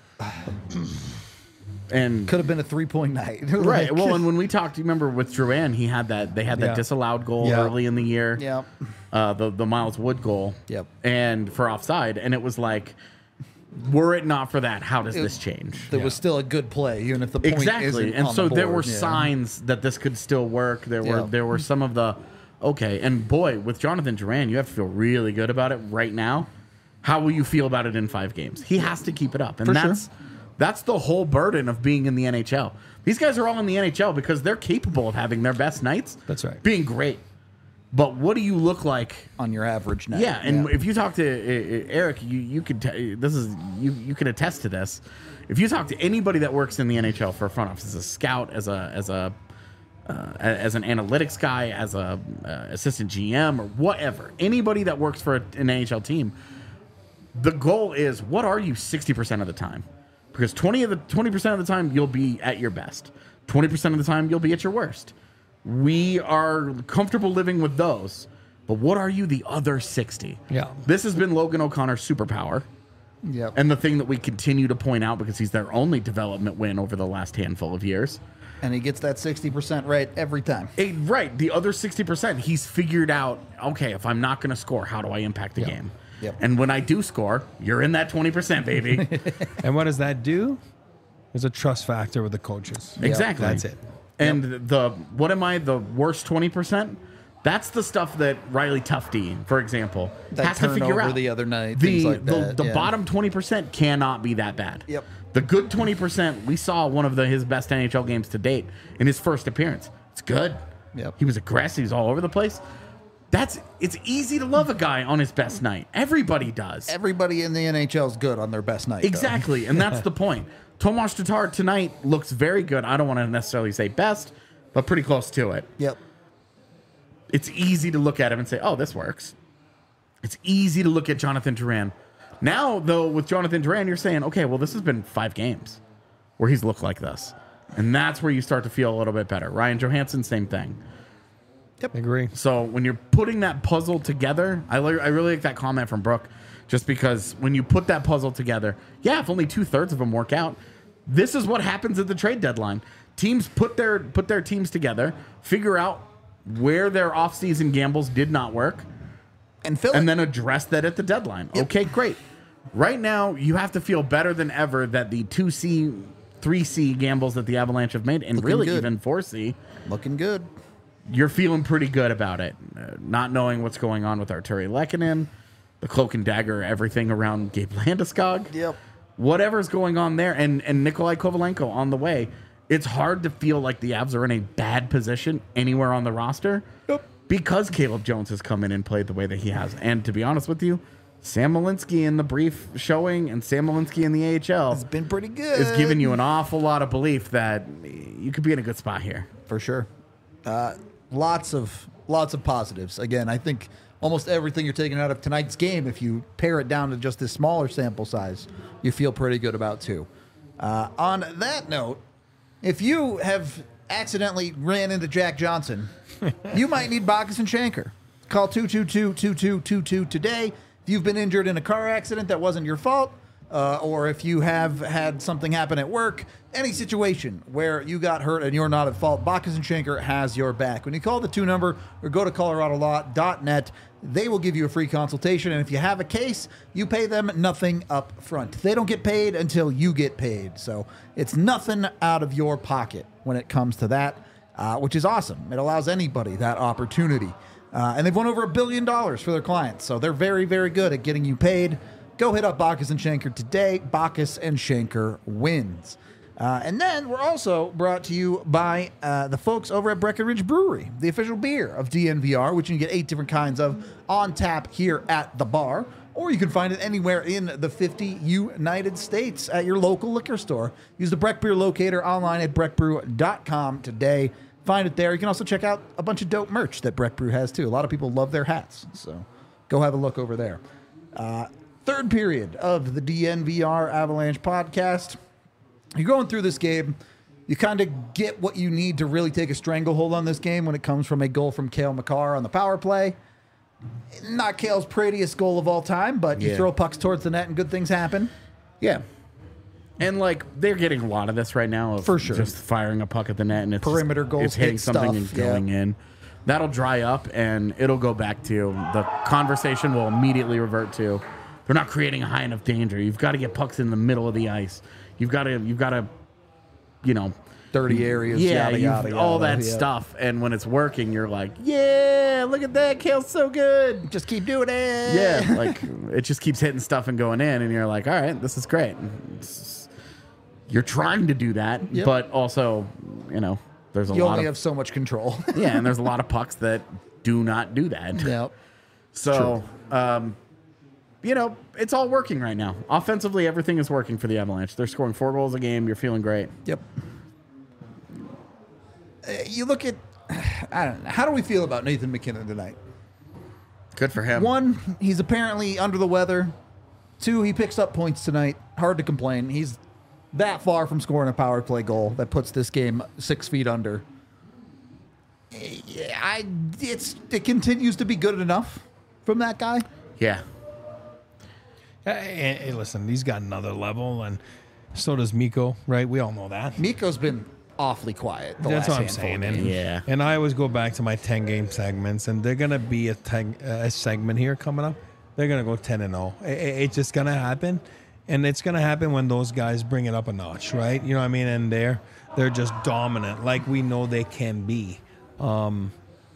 And Could have been a three point night. right. Like- Well, and when we talked, you remember with Duran, he had that they had that Yeah. disallowed goal Yeah. early in the year. Yep. Uh, the the Miles Wood goal. Yep. And for offside, and it was like, were it not for that, how does It- this change? There was still a good play, even if the point Exactly. isn't And on so the there board. were Yeah. signs that this could still work. There were Yeah. there were some of the okay. And boy, with Jonathan Duran, you have to feel really good about it right now. How will you feel about it in five games? He has to keep it up. And For sure. that's that's the whole burden of being in the N H L. These guys are all in the N H L because they're capable of having their best nights. That's right. Being great. But what do you look like On your average night. yeah, and if you talk to uh, uh, Eric, you you could t- this is you you can attest to this. If you talk to anybody that works in the N H L for a front office, as a scout, as a as a uh, as an analytics guy, as a uh, assistant G M or whatever, anybody that works for a, an N H L team, the goal is what are you sixty percent of the time? Because twenty of the twenty percent of the time you'll be at your best. twenty percent of the time you'll be at your worst. We are comfortable living with those. But what are you the other sixty? Yeah. This has been Logan O'Connor's superpower. Yep. And the thing that we continue to point out because he's their only development win over the last handful of years. And he gets that sixty percent right every time. Eh, right. The other sixty percent, he's figured out, okay, if I'm not going to score, how do I impact the Yep. game? Yep. And when I do score, you're in that twenty percent, baby. And what does that do? There's a trust factor with the coaches. Exactly. That's it. And the what am I, the worst twenty percent? That's the stuff that Riley Tufte, for example, That has to figure turnover out. the other night, The, things like the, that, the yeah. bottom twenty percent cannot be that bad. Yep. The good twenty percent, we saw one of the, his best N H L games to date in his first appearance. It's good. Yep. He was aggressive. He was all over the place. That's It's easy to love a guy on his best night. Everybody does. Everybody in the N H L is good on their best night. though. Exactly, and that's the point. Tomas Tatar tonight looks very good. I don't want to necessarily say best, but pretty close to it. Yep. It's easy to look at him and say, oh, this works. It's easy to look at Jonathan Duran. Now, though, with Jonathan Duran, you're saying, okay, well, this has been five games where he's looked like this. And that's where you start to feel a little bit better. Ryan Johansson, same thing. I agree. So when you're putting that puzzle together, I, li- I really like that comment from Brooke, just because when you put that puzzle together, yeah, if only two thirds of them work out, this is what happens at the trade deadline. Teams put their put their teams together, figure out where their offseason gambles did not work, And fill and it. then address that at the deadline. Okay, great. Right now, you have to feel better than ever that the two C, three C gambles that the Avalanche have made, and Looking really good. even four C, Looking good. you're feeling pretty good about it. Uh, not knowing what's going on with Arturi Lehkonen, the cloak and dagger, everything around Gabe Landeskog. Yep. Whatever's going on there, and, and Nikolai Kovalenko on the way, it's hard to feel like the Avs are in a bad position anywhere on the roster Yep. because Caleb Jones has come in and played the way that he has. And to be honest with you, Sam Malinsky in the brief showing and Sam Malinsky in the A H L It's been pretty good. is giving you an awful lot of belief that you could be in a good spot here. For sure. Uh, lots of lots of positives. Again, I think almost everything you're taking out of tonight's game, if you pare it down to just this smaller sample size, you feel pretty good about too. Uh, on that note, if you have accidentally ran into Jack Johnson, you might need Bacchus and Shanker. Call two two two, two two two two today. If you've been injured in a car accident that wasn't your fault, uh, or if you have had something happen at work, any situation where you got hurt and you're not at fault, Bacchus and Shanker has your back. When you call the two number or go to colorado law dot net, they will give you a free consultation. And if you have a case, you pay them nothing up front. They don't get paid until you get paid. So it's nothing out of your pocket when it comes to that, uh, which is awesome. It allows anybody that opportunity. Uh, and they've won over a billion dollars for their clients. So they're very, very good at getting you paid. Go hit up Bacchus and Shanker today. Bacchus and Shanker wins. Uh, and then we're also brought to you by uh, the folks over at Breckenridge Brewery, the official beer of D N V R, which you can get eight different kinds of on tap here at the bar. Or you can find it anywhere in the fifty United States at your local liquor store. Use the Breck Beer Locator online at breck brew dot com today. Find it there. You can also check out a bunch of dope merch that Breck Brew has too. A lot of people love their hats, so go have a look over there. Uh, third period of the D N V R Avalanche podcast. You're going through this game. You kind of get what you need to really take a stranglehold on this game when it comes from a goal from Cale Makar on the power play. Not Cale's prettiest goal of all time, but you Yeah. throw pucks towards the net and good things happen. Yeah. And like they're getting a lot of this right now of For sure. just firing a puck at the net and it's Perimeter goals, it's hitting hit something stuff, and going yeah. in. That'll dry up and it'll go back to the conversation will immediately revert to they're not creating a high enough danger. You've got to get pucks in the middle of the ice. You've got to you've got to you know Dirty areas, yeah, yada, you've- yada, all yada, that yeah. stuff. And when it's working, you're like, yeah, look at that. Kale's so good. Just keep doing it. Yeah, like it just keeps hitting stuff and going in, and you're like, all right, this is great. It's- you're trying to do that, Yep. but also, you know, there's a You lot only of have so much control. yeah, and there's a lot of pucks that do not do that. Yep. So, um, you know, it's all working right now. Offensively, everything is working for the Avalanche. They're scoring four goals a game. You're feeling great. Yep. Uh, you look at, I don't know, how do we feel about Nathan McKinnon tonight? Good for him. One, he's apparently under the weather. Two, he picks up points tonight. Hard to complain. He's Mm-hmm. that far from scoring a power play goal that puts this game six feet under. Uh, and then, uh, you look at, I don't know, how do we feel about Nathan McKinnon tonight? One, he's apparently under the weather. Two, he picks up points tonight. Hard to complain. He's that far from scoring a power play goal that puts this game six feet under. Yeah, I it's it continues to be good enough from that guy. Yeah. Hey, hey, listen, he's got another level, and so does Miko, right? We all know that. Miko's been awfully quiet. The That's last what I'm handful saying. of And, games. Yeah. and I always go back to my ten game segments, and they're going to be a, ten, a segment here coming up. They're going to go ten and oh. It, it- it's just going to happen. And it's going to happen when those guys bring it up a notch, right? You know what I mean? And they're, they're just dominant, like we know they can be. Um,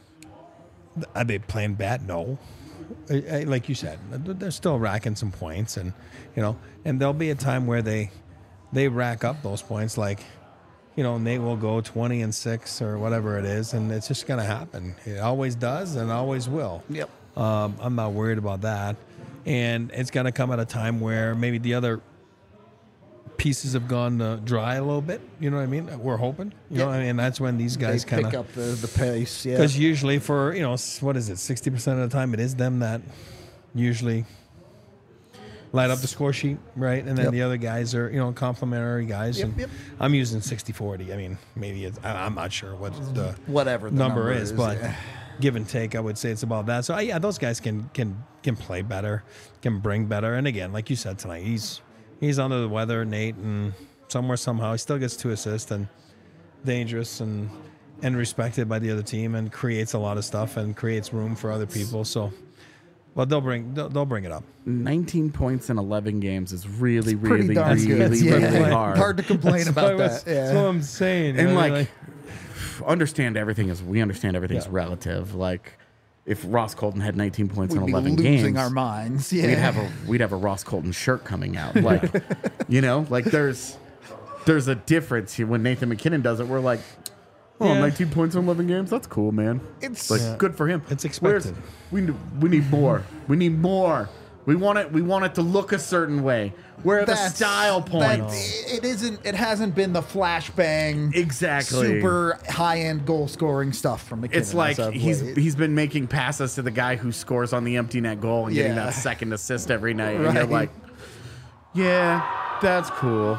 are they playing bad? No. I- I- Like you said, they're still racking some points, and you know, and there'll be a time where they they rack up those points. Like, you know, Nate will go twenty and six or whatever it is, and it's just gonna happen. It always does, and always will. Yep. Um, I'm not worried about that, and it's gonna come at a time where maybe the other pieces have gone uh, dry a little bit. You know what I mean? We're hoping. You know, Yeah. and that's when these guys They kind pick of. up the, the pace. Yeah. Because usually for, you know, s- what is it, sixty percent of the time, it is them that usually light up the score sheet, right? And then Yep. the other guys are, you know, complimentary guys. Yep, and yep. I'm using sixty forty. I mean, maybe it's, I, I'm not sure what the Whatever the number, number is, is, but yeah. give and take, I would say it's about that. So, uh, yeah, those guys can can can play better, can bring better. And again, like you said tonight, he's he's under the weather, Nate, and somewhere, somehow, he still gets two assists and dangerous and and respected by the other team and creates a lot of stuff and creates room for other people. So, well, they'll bring they'll, they'll bring it up. nineteen points in eleven games is really, Pretty really, darn really, good. really, Yeah. hard. Hard to complain about That's that. That's Yeah. what I'm saying. you And know, like, understand everything is we understand everything's Yeah. relative. Like, if Ross Colton had nineteen points We'd in be eleven losing games, our minds. Yeah. we'd have a we'd have a Ross Colton shirt coming out. Like, you know, like there's there's a difference here. When Nathan McKinnon does it, we're like, oh, Yeah. nineteen points in eleven games. That's cool, man. It's- like Yeah. good for him. It's Where's- expected. we need, we need more. We need more. We want it. We want it to look a certain way. Where are the That's- style that- points? it isn't. It hasn't been the flashbang, Exactly. super high end goal scoring stuff from McKinnon. It's like as of he's late. he's been making passes to the guy who scores on the empty net goal and getting Yeah. that second assist every night, and you're Right. like, yeah, that's cool,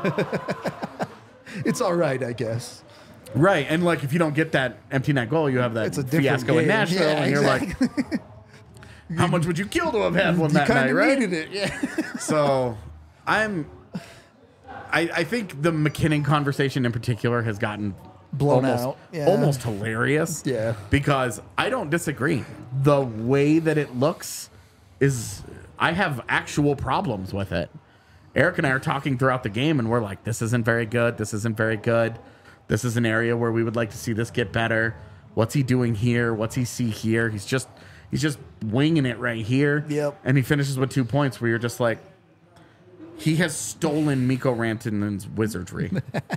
It's all right, I guess. right? And like, if you don't get that empty net goal, you have that It's a different fiasco in game. Nashville, Yeah, and you're exactly. like, how much would you kill to have had one You that kind night, of right? needed it. Yeah. So, I'm. I, I think the McKinnon conversation in particular has gotten Blown almost, out. Yeah. almost hilarious. Yeah. Because I don't disagree. The way that it looks is, I have actual problems with it. Eric and I are talking throughout the game, and we're like, this isn't very good. This isn't very good. This is an area where we would like to see this get better. What's he doing here? What's he see here? He's just he's just winging it right here. Yep. And he finishes with two points where you're just like, he has stolen Mikko Rantanen's wizardry.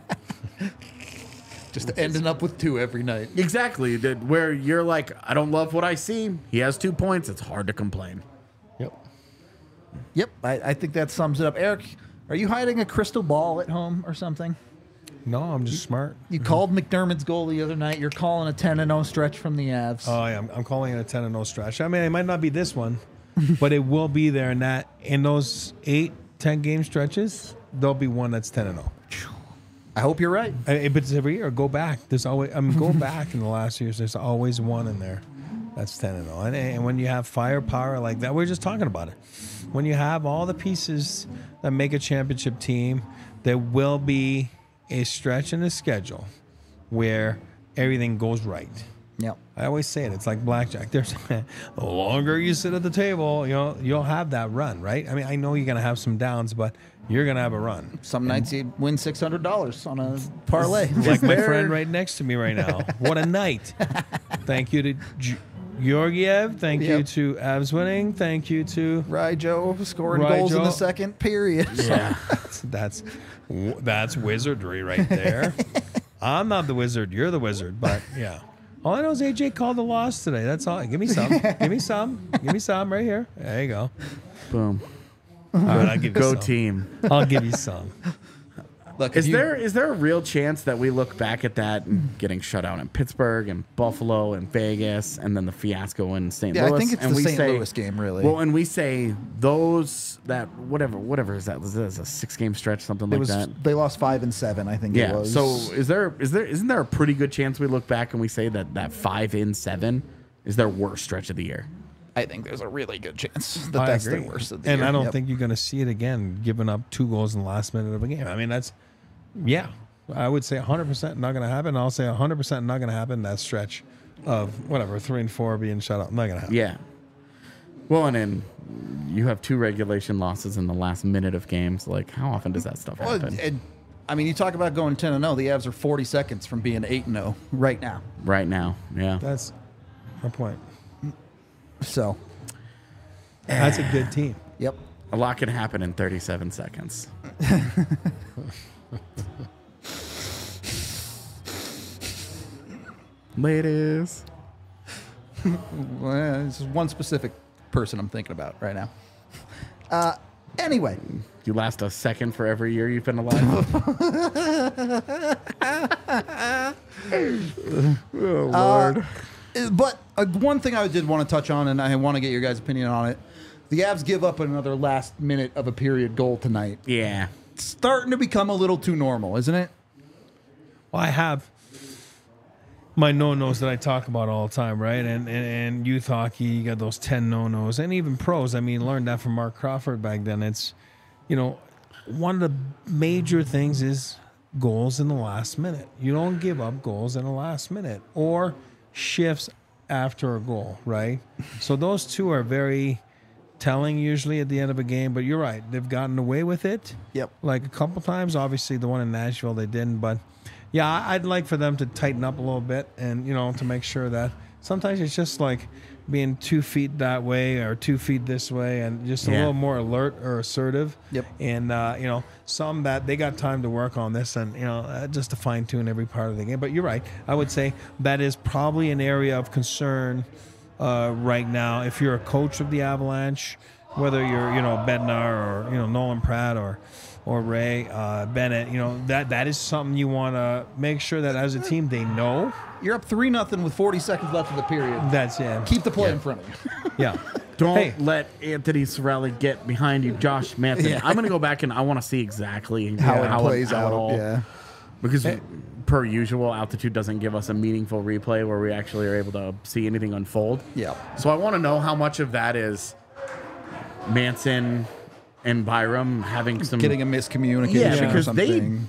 Just ending up with two every night. Exactly. that- Where you're like, I don't love what I see. He has two points. It's hard to complain. Yep. Yep, I, I think that sums it up. Eric, are you hiding a crystal ball at home or something? No, I'm just smart. You called McDermott's goal the other night. You're calling a ten and oh stretch from the Avs. Oh, yeah, I'm, I'm calling it a ten and oh stretch. I mean, it might not be this one, but it will be there. And that in those eight, ten game stretches, there'll be one that's ten and oh. I hope you're right. I- But it's every year. Go back. There's always. I mean, go back in the last years. There's always one in there that's ten and oh. And, and when you have firepower like that, we we're just talking about it. When you have all the pieces that make a championship team, there will be a stretch in the schedule where everything goes right. Yep. I always say it. It's like blackjack. There's the longer you sit at the table, you know, you'll have that run, right? I mean, I know you're gonna have some downs, but you're gonna have a run. Some nights you win six hundred dollars on a parlay. Like my there- friend right next to me right now. What a night! Thank you to G- Georgiev. Thank you Yep. to Avs winning. Thank you to Ryjo scoring goals in the Ryjo. second period. Yeah. that's that's wizardry right there. I'm not the wizard. You're the wizard. But yeah. All I know is A J called the loss today. That's all. Give me some. Give me some. Give me some right here. There you go. Boom. All right, I'll give you Go some. team. I'll give you some. Look, Is if you- there is there a real chance that we look back at that and getting shut out in Pittsburgh and Buffalo and Vegas and then the fiasco in Saint Yeah, I Louis? think it's and the we Saint say, Louis game, really. Well, and we say those that whatever whatever is that? Is this a six game stretch, something It like was that? they lost five and seven, I think it Yeah. was. So is there is there isn't there a pretty good chance we look back and we say that that five in seven is their worst stretch of the year? I think there's a really good chance that I that's agree. the worst of the and year. I don't Yep. think you're going to see it again, giving up two goals in the last minute of a game. I mean, that's, yeah, I would say one hundred percent not going to happen. I'll say one hundred percent not going to happen that stretch of whatever, three and four being shut out. Not going to happen. Yeah. Well, and then you have two regulation losses in the last minute of games. Like, how often does that stuff Well, happen? and, I mean, you talk about going ten and zero. The Avs are forty seconds from being eight and zero right now. right now, yeah. That's my point. So, That's a good team. yep. A lot can happen in thirty-seven seconds. Ladies. Well, this is one specific person I'm thinking about right now. Uh, anyway, You last a second for every year you've been alive. Oh, Lord. uh, but uh, one thing I did want to touch on, and I want to get your guys' opinion on it. The Avs give up another last minute of a period goal tonight. yeah. It's starting to become a little too normal, isn't it? Well, I have my no-nos that I talk about all the time, right? And, and and youth hockey, you got those ten no-nos, and even pros. I mean, learned that from Mark Crawford back then. It's, you know, one of the major things is goals in the last minute. You don't give up goals in the last minute or shifts after a goal, right? So those two are very telling usually at the end of a game. But you're right, they've gotten away with it. Yep. Like a couple times. Obviously, the one in Nashville they didn't, but yeah, I- I'd like for them to tighten up a little bit, and you know, to make sure that sometimes it's just like being two feet that way or two feet this way, and just a Yeah. little more alert or assertive. Yep. And uh, you know, some that they got time to work on this, and you know, uh, just to fine tune every part of the game. But you're right. I would say that is probably an area of concern uh, right now. If you're a coach of the Avalanche, whether you're you know Bednar or you know Nolan Pratt or or Ray uh, Bennett, you know that that is something you want to make sure that as a team they know. You're up three nothing with forty seconds left of the period. That's yeah, Keep the play in front of you. yeah. Don't Hey. let Anthony Cirelli get behind you, Josh Manson. Yeah. I'm going to go back and I want to see exactly How how, it plays how out. it all. Yeah. Because per usual, altitude doesn't give us a meaningful replay where we actually are able to see anything unfold. Yeah. So I want to know how much of that is Manson and Byram having some Getting a miscommunication Yeah, or because they- something.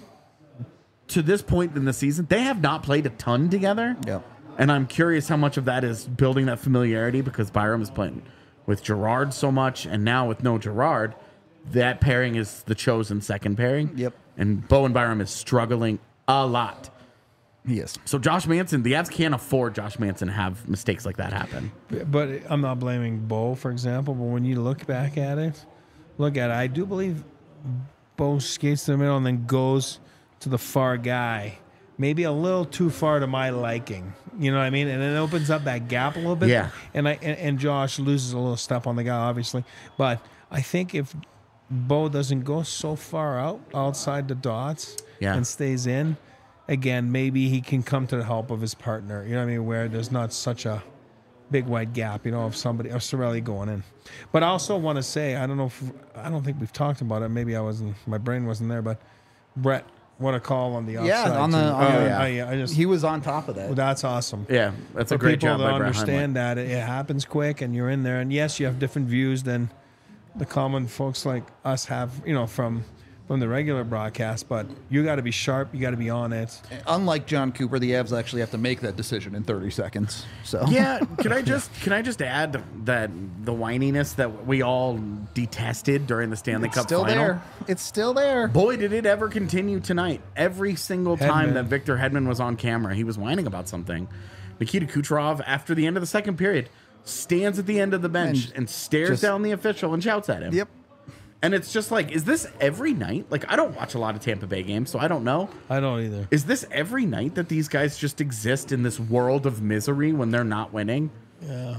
to this point in the season, they have not played a ton together. Yep. And I'm curious how much of that is building that familiarity because Byram is playing with Gerard so much, and now with no Gerard, that pairing is the chosen second pairing. Yep. And Bowen Byram is struggling a lot. Yes. So Josh Manson, the Avs can't afford Josh Manson to have mistakes like that happen. But I'm not blaming Bo, for example. But when you look back at it, look at it. I do believe Bo skates to the middle and then goes to the far guy. Maybe a little too far to my liking. You know what I mean? And it opens up that gap a little bit. Yeah. And I and, and Josh loses a little step on the guy, obviously. But I think if Bo doesn't go so far out outside the dots Yeah. and stays in, again, maybe he can come to the help of his partner. You know what I mean? Where there's not such a big wide gap, you know, of somebody of Cirelli going in. But I also want to say, I don't know if I don't think we've talked about it. Maybe I wasn't, my brain wasn't there. But Brett, what a call on the offside. Yeah, on the- too. on the- I, I just He was on top of that. well, that's awesome. Yeah, that's a For great people job to by Brett understand that it, it happens quick and you're in there. And yes, you have different views than the common folks like us have, you know, from from the regular broadcast. But you got to be sharp. You got to be on it. Unlike John Cooper, the Avs actually have to make that decision in thirty seconds. So Yeah, can I just can I just add that the whininess that we all detested during the Stanley it's Cup still final? there. It's still there. Boy, did it ever continue tonight. Every single time Hedman. that Victor Hedman was on camera, he was whining about something. Nikita Kucherov, after the end of the second period, stands at the end of the bench And and, stares just- down the official and shouts at him. Yep. And it's just like, is this every night? Like, I don't watch a lot of Tampa Bay games, so I don't know. I don't either. Is this every night that these guys just exist in this world of misery when they're not winning? Yeah.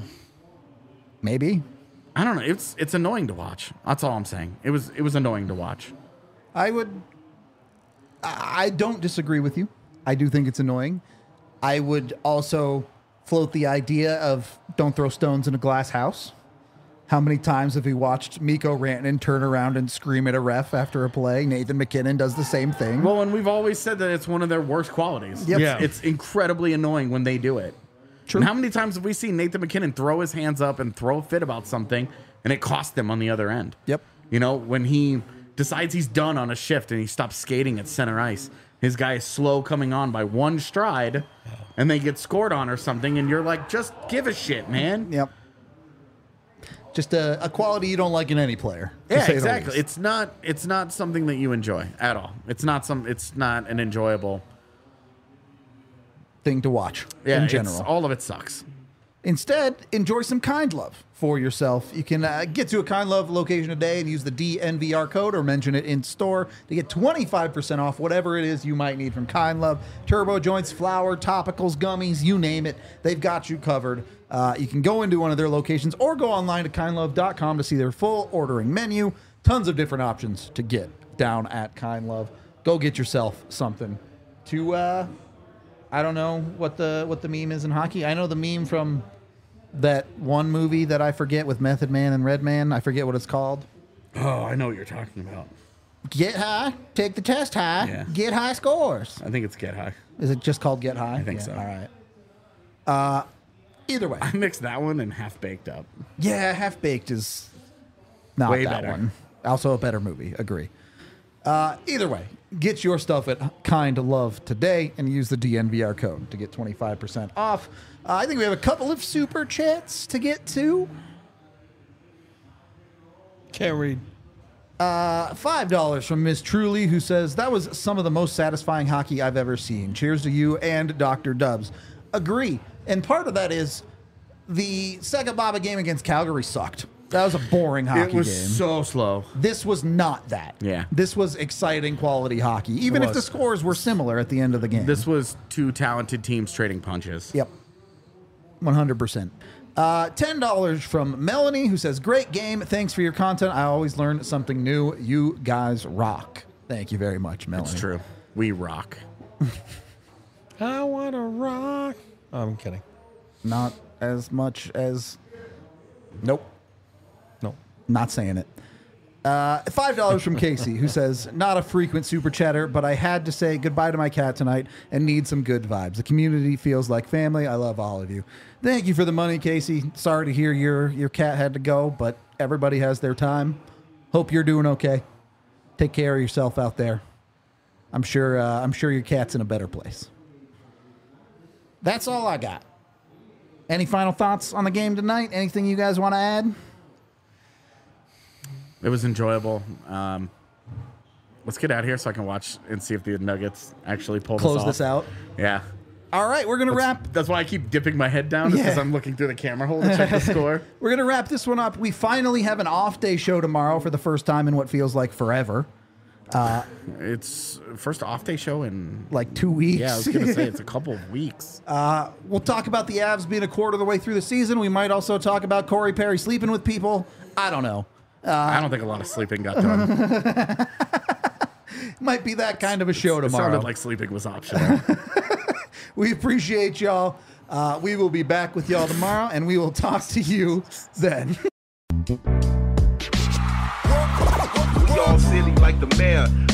Maybe. I don't know. It's it's annoying to watch. That's all I'm saying. It was it was annoying to watch. I would. I don't disagree with you. I do think it's annoying. I would also float the idea of don't throw stones in a glass house. How many times have we watched Mikko Rantanen turn around and scream at a ref after a play? Nathan MacKinnon does the same thing. Well, and we've always said that it's one of their worst qualities. Yep. Yeah. It's incredibly annoying when they do it. True. And how many times have we seen Nathan MacKinnon throw his hands up and throw a fit about something, and it cost them on the other end? Yep. You know, when he decides he's done on a shift and he stops skating at center ice, his guy is slow coming on by one stride, and they get scored on or something, and you're like, just give a shit, man. Yep. Just a, a quality you don't like in any player. to Yeah, say the exactly. least. It's not. It's not something that you enjoy at all. It's not some. It's not an enjoyable. Thing to watch Yeah, in it's- general. all of it sucks. Instead, enjoy some Kind Love for yourself. You can uh, get to a Kind Love location today and use the D N V R code or mention it in store to get twenty-five percent off whatever it is you might need from Kind Love. Turbo joints, flour, topicals, gummies, you name it. They've got you covered. Uh, you can go into one of their locations or go online to kind love dot com to see their full ordering menu. Tons of different options to get down at Kind Love. Go get yourself something to... Uh, I don't know what the what the meme is in hockey. I know the meme from that one movie that I forget with Method Man and Redman. I forget what it's called. Oh, I know what you're talking about. Get high, take the test high, Yeah. get high scores. I think it's Get High. Is it just called Get High? I think Yeah, so. All right. Uh, either way, I mixed that one and Half Baked Up. yeah, Half Baked is not Way that better. one. Also a better movie. Agree. Uh, either way, get your stuff at Kind Love today and use the D N V R code to get twenty-five percent off. Uh, I think we have a couple of super chats to get to. Can't read. Uh, five dollars from Miss Truly, who says, that was some of the most satisfying hockey I've ever seen. Cheers to you and Doctor Dubs. Agree. And part of that is the second Baba game against Calgary sucked. That was a boring hockey It was game. so slow. This was not that. Yeah. This was exciting quality hockey, even It if the was. scores were similar at the end of the game. This was two talented teams trading punches. Yep. one hundred percent. Uh, ten dollars from Melanie, who says, great game. Thanks for your content. I always learn something new. You guys rock. Thank you very much, Melanie. It's true. We rock. I want to rock. Oh, I'm kidding. Not as much as... Nope. No. Not saying it. Uh, five dollars from Casey, who says, not a frequent super chatter, but I had to say goodbye to my cat tonight and need some good vibes. The community feels like family. I love all of you. Thank you for the money, Casey. Sorry to hear your, your cat had to go, but everybody has their time. Hope you're doing okay. Take care of yourself out there. I'm sure, uh, I'm sure your cat's in a better place. That's all I got. Any final thoughts on the game tonight? Anything you guys want to add? It was enjoyable. Um, let's get out of here so I can watch and see if the Nuggets actually pull Close this off. this out. Yeah. All right, we're gonna wrap. That's why I keep dipping my head down because Yeah. I'm looking through the camera hole to check the score. We're gonna wrap this one up. We finally have an off day show tomorrow for the first time in what feels like forever, It's first off day show in like two weeks. yeah. I was gonna say it's a couple of weeks. We'll talk about the Avs being a quarter of the way through the season. We might also talk about Corey Perry sleeping with people. I don't know. I don't think a lot of sleeping got done. Might be that kind of a show It tomorrow. sounded like sleeping was optional. We appreciate y'all. Uh, we will be back with y'all tomorrow, and we will talk to you then. Y'all silly like the mayor.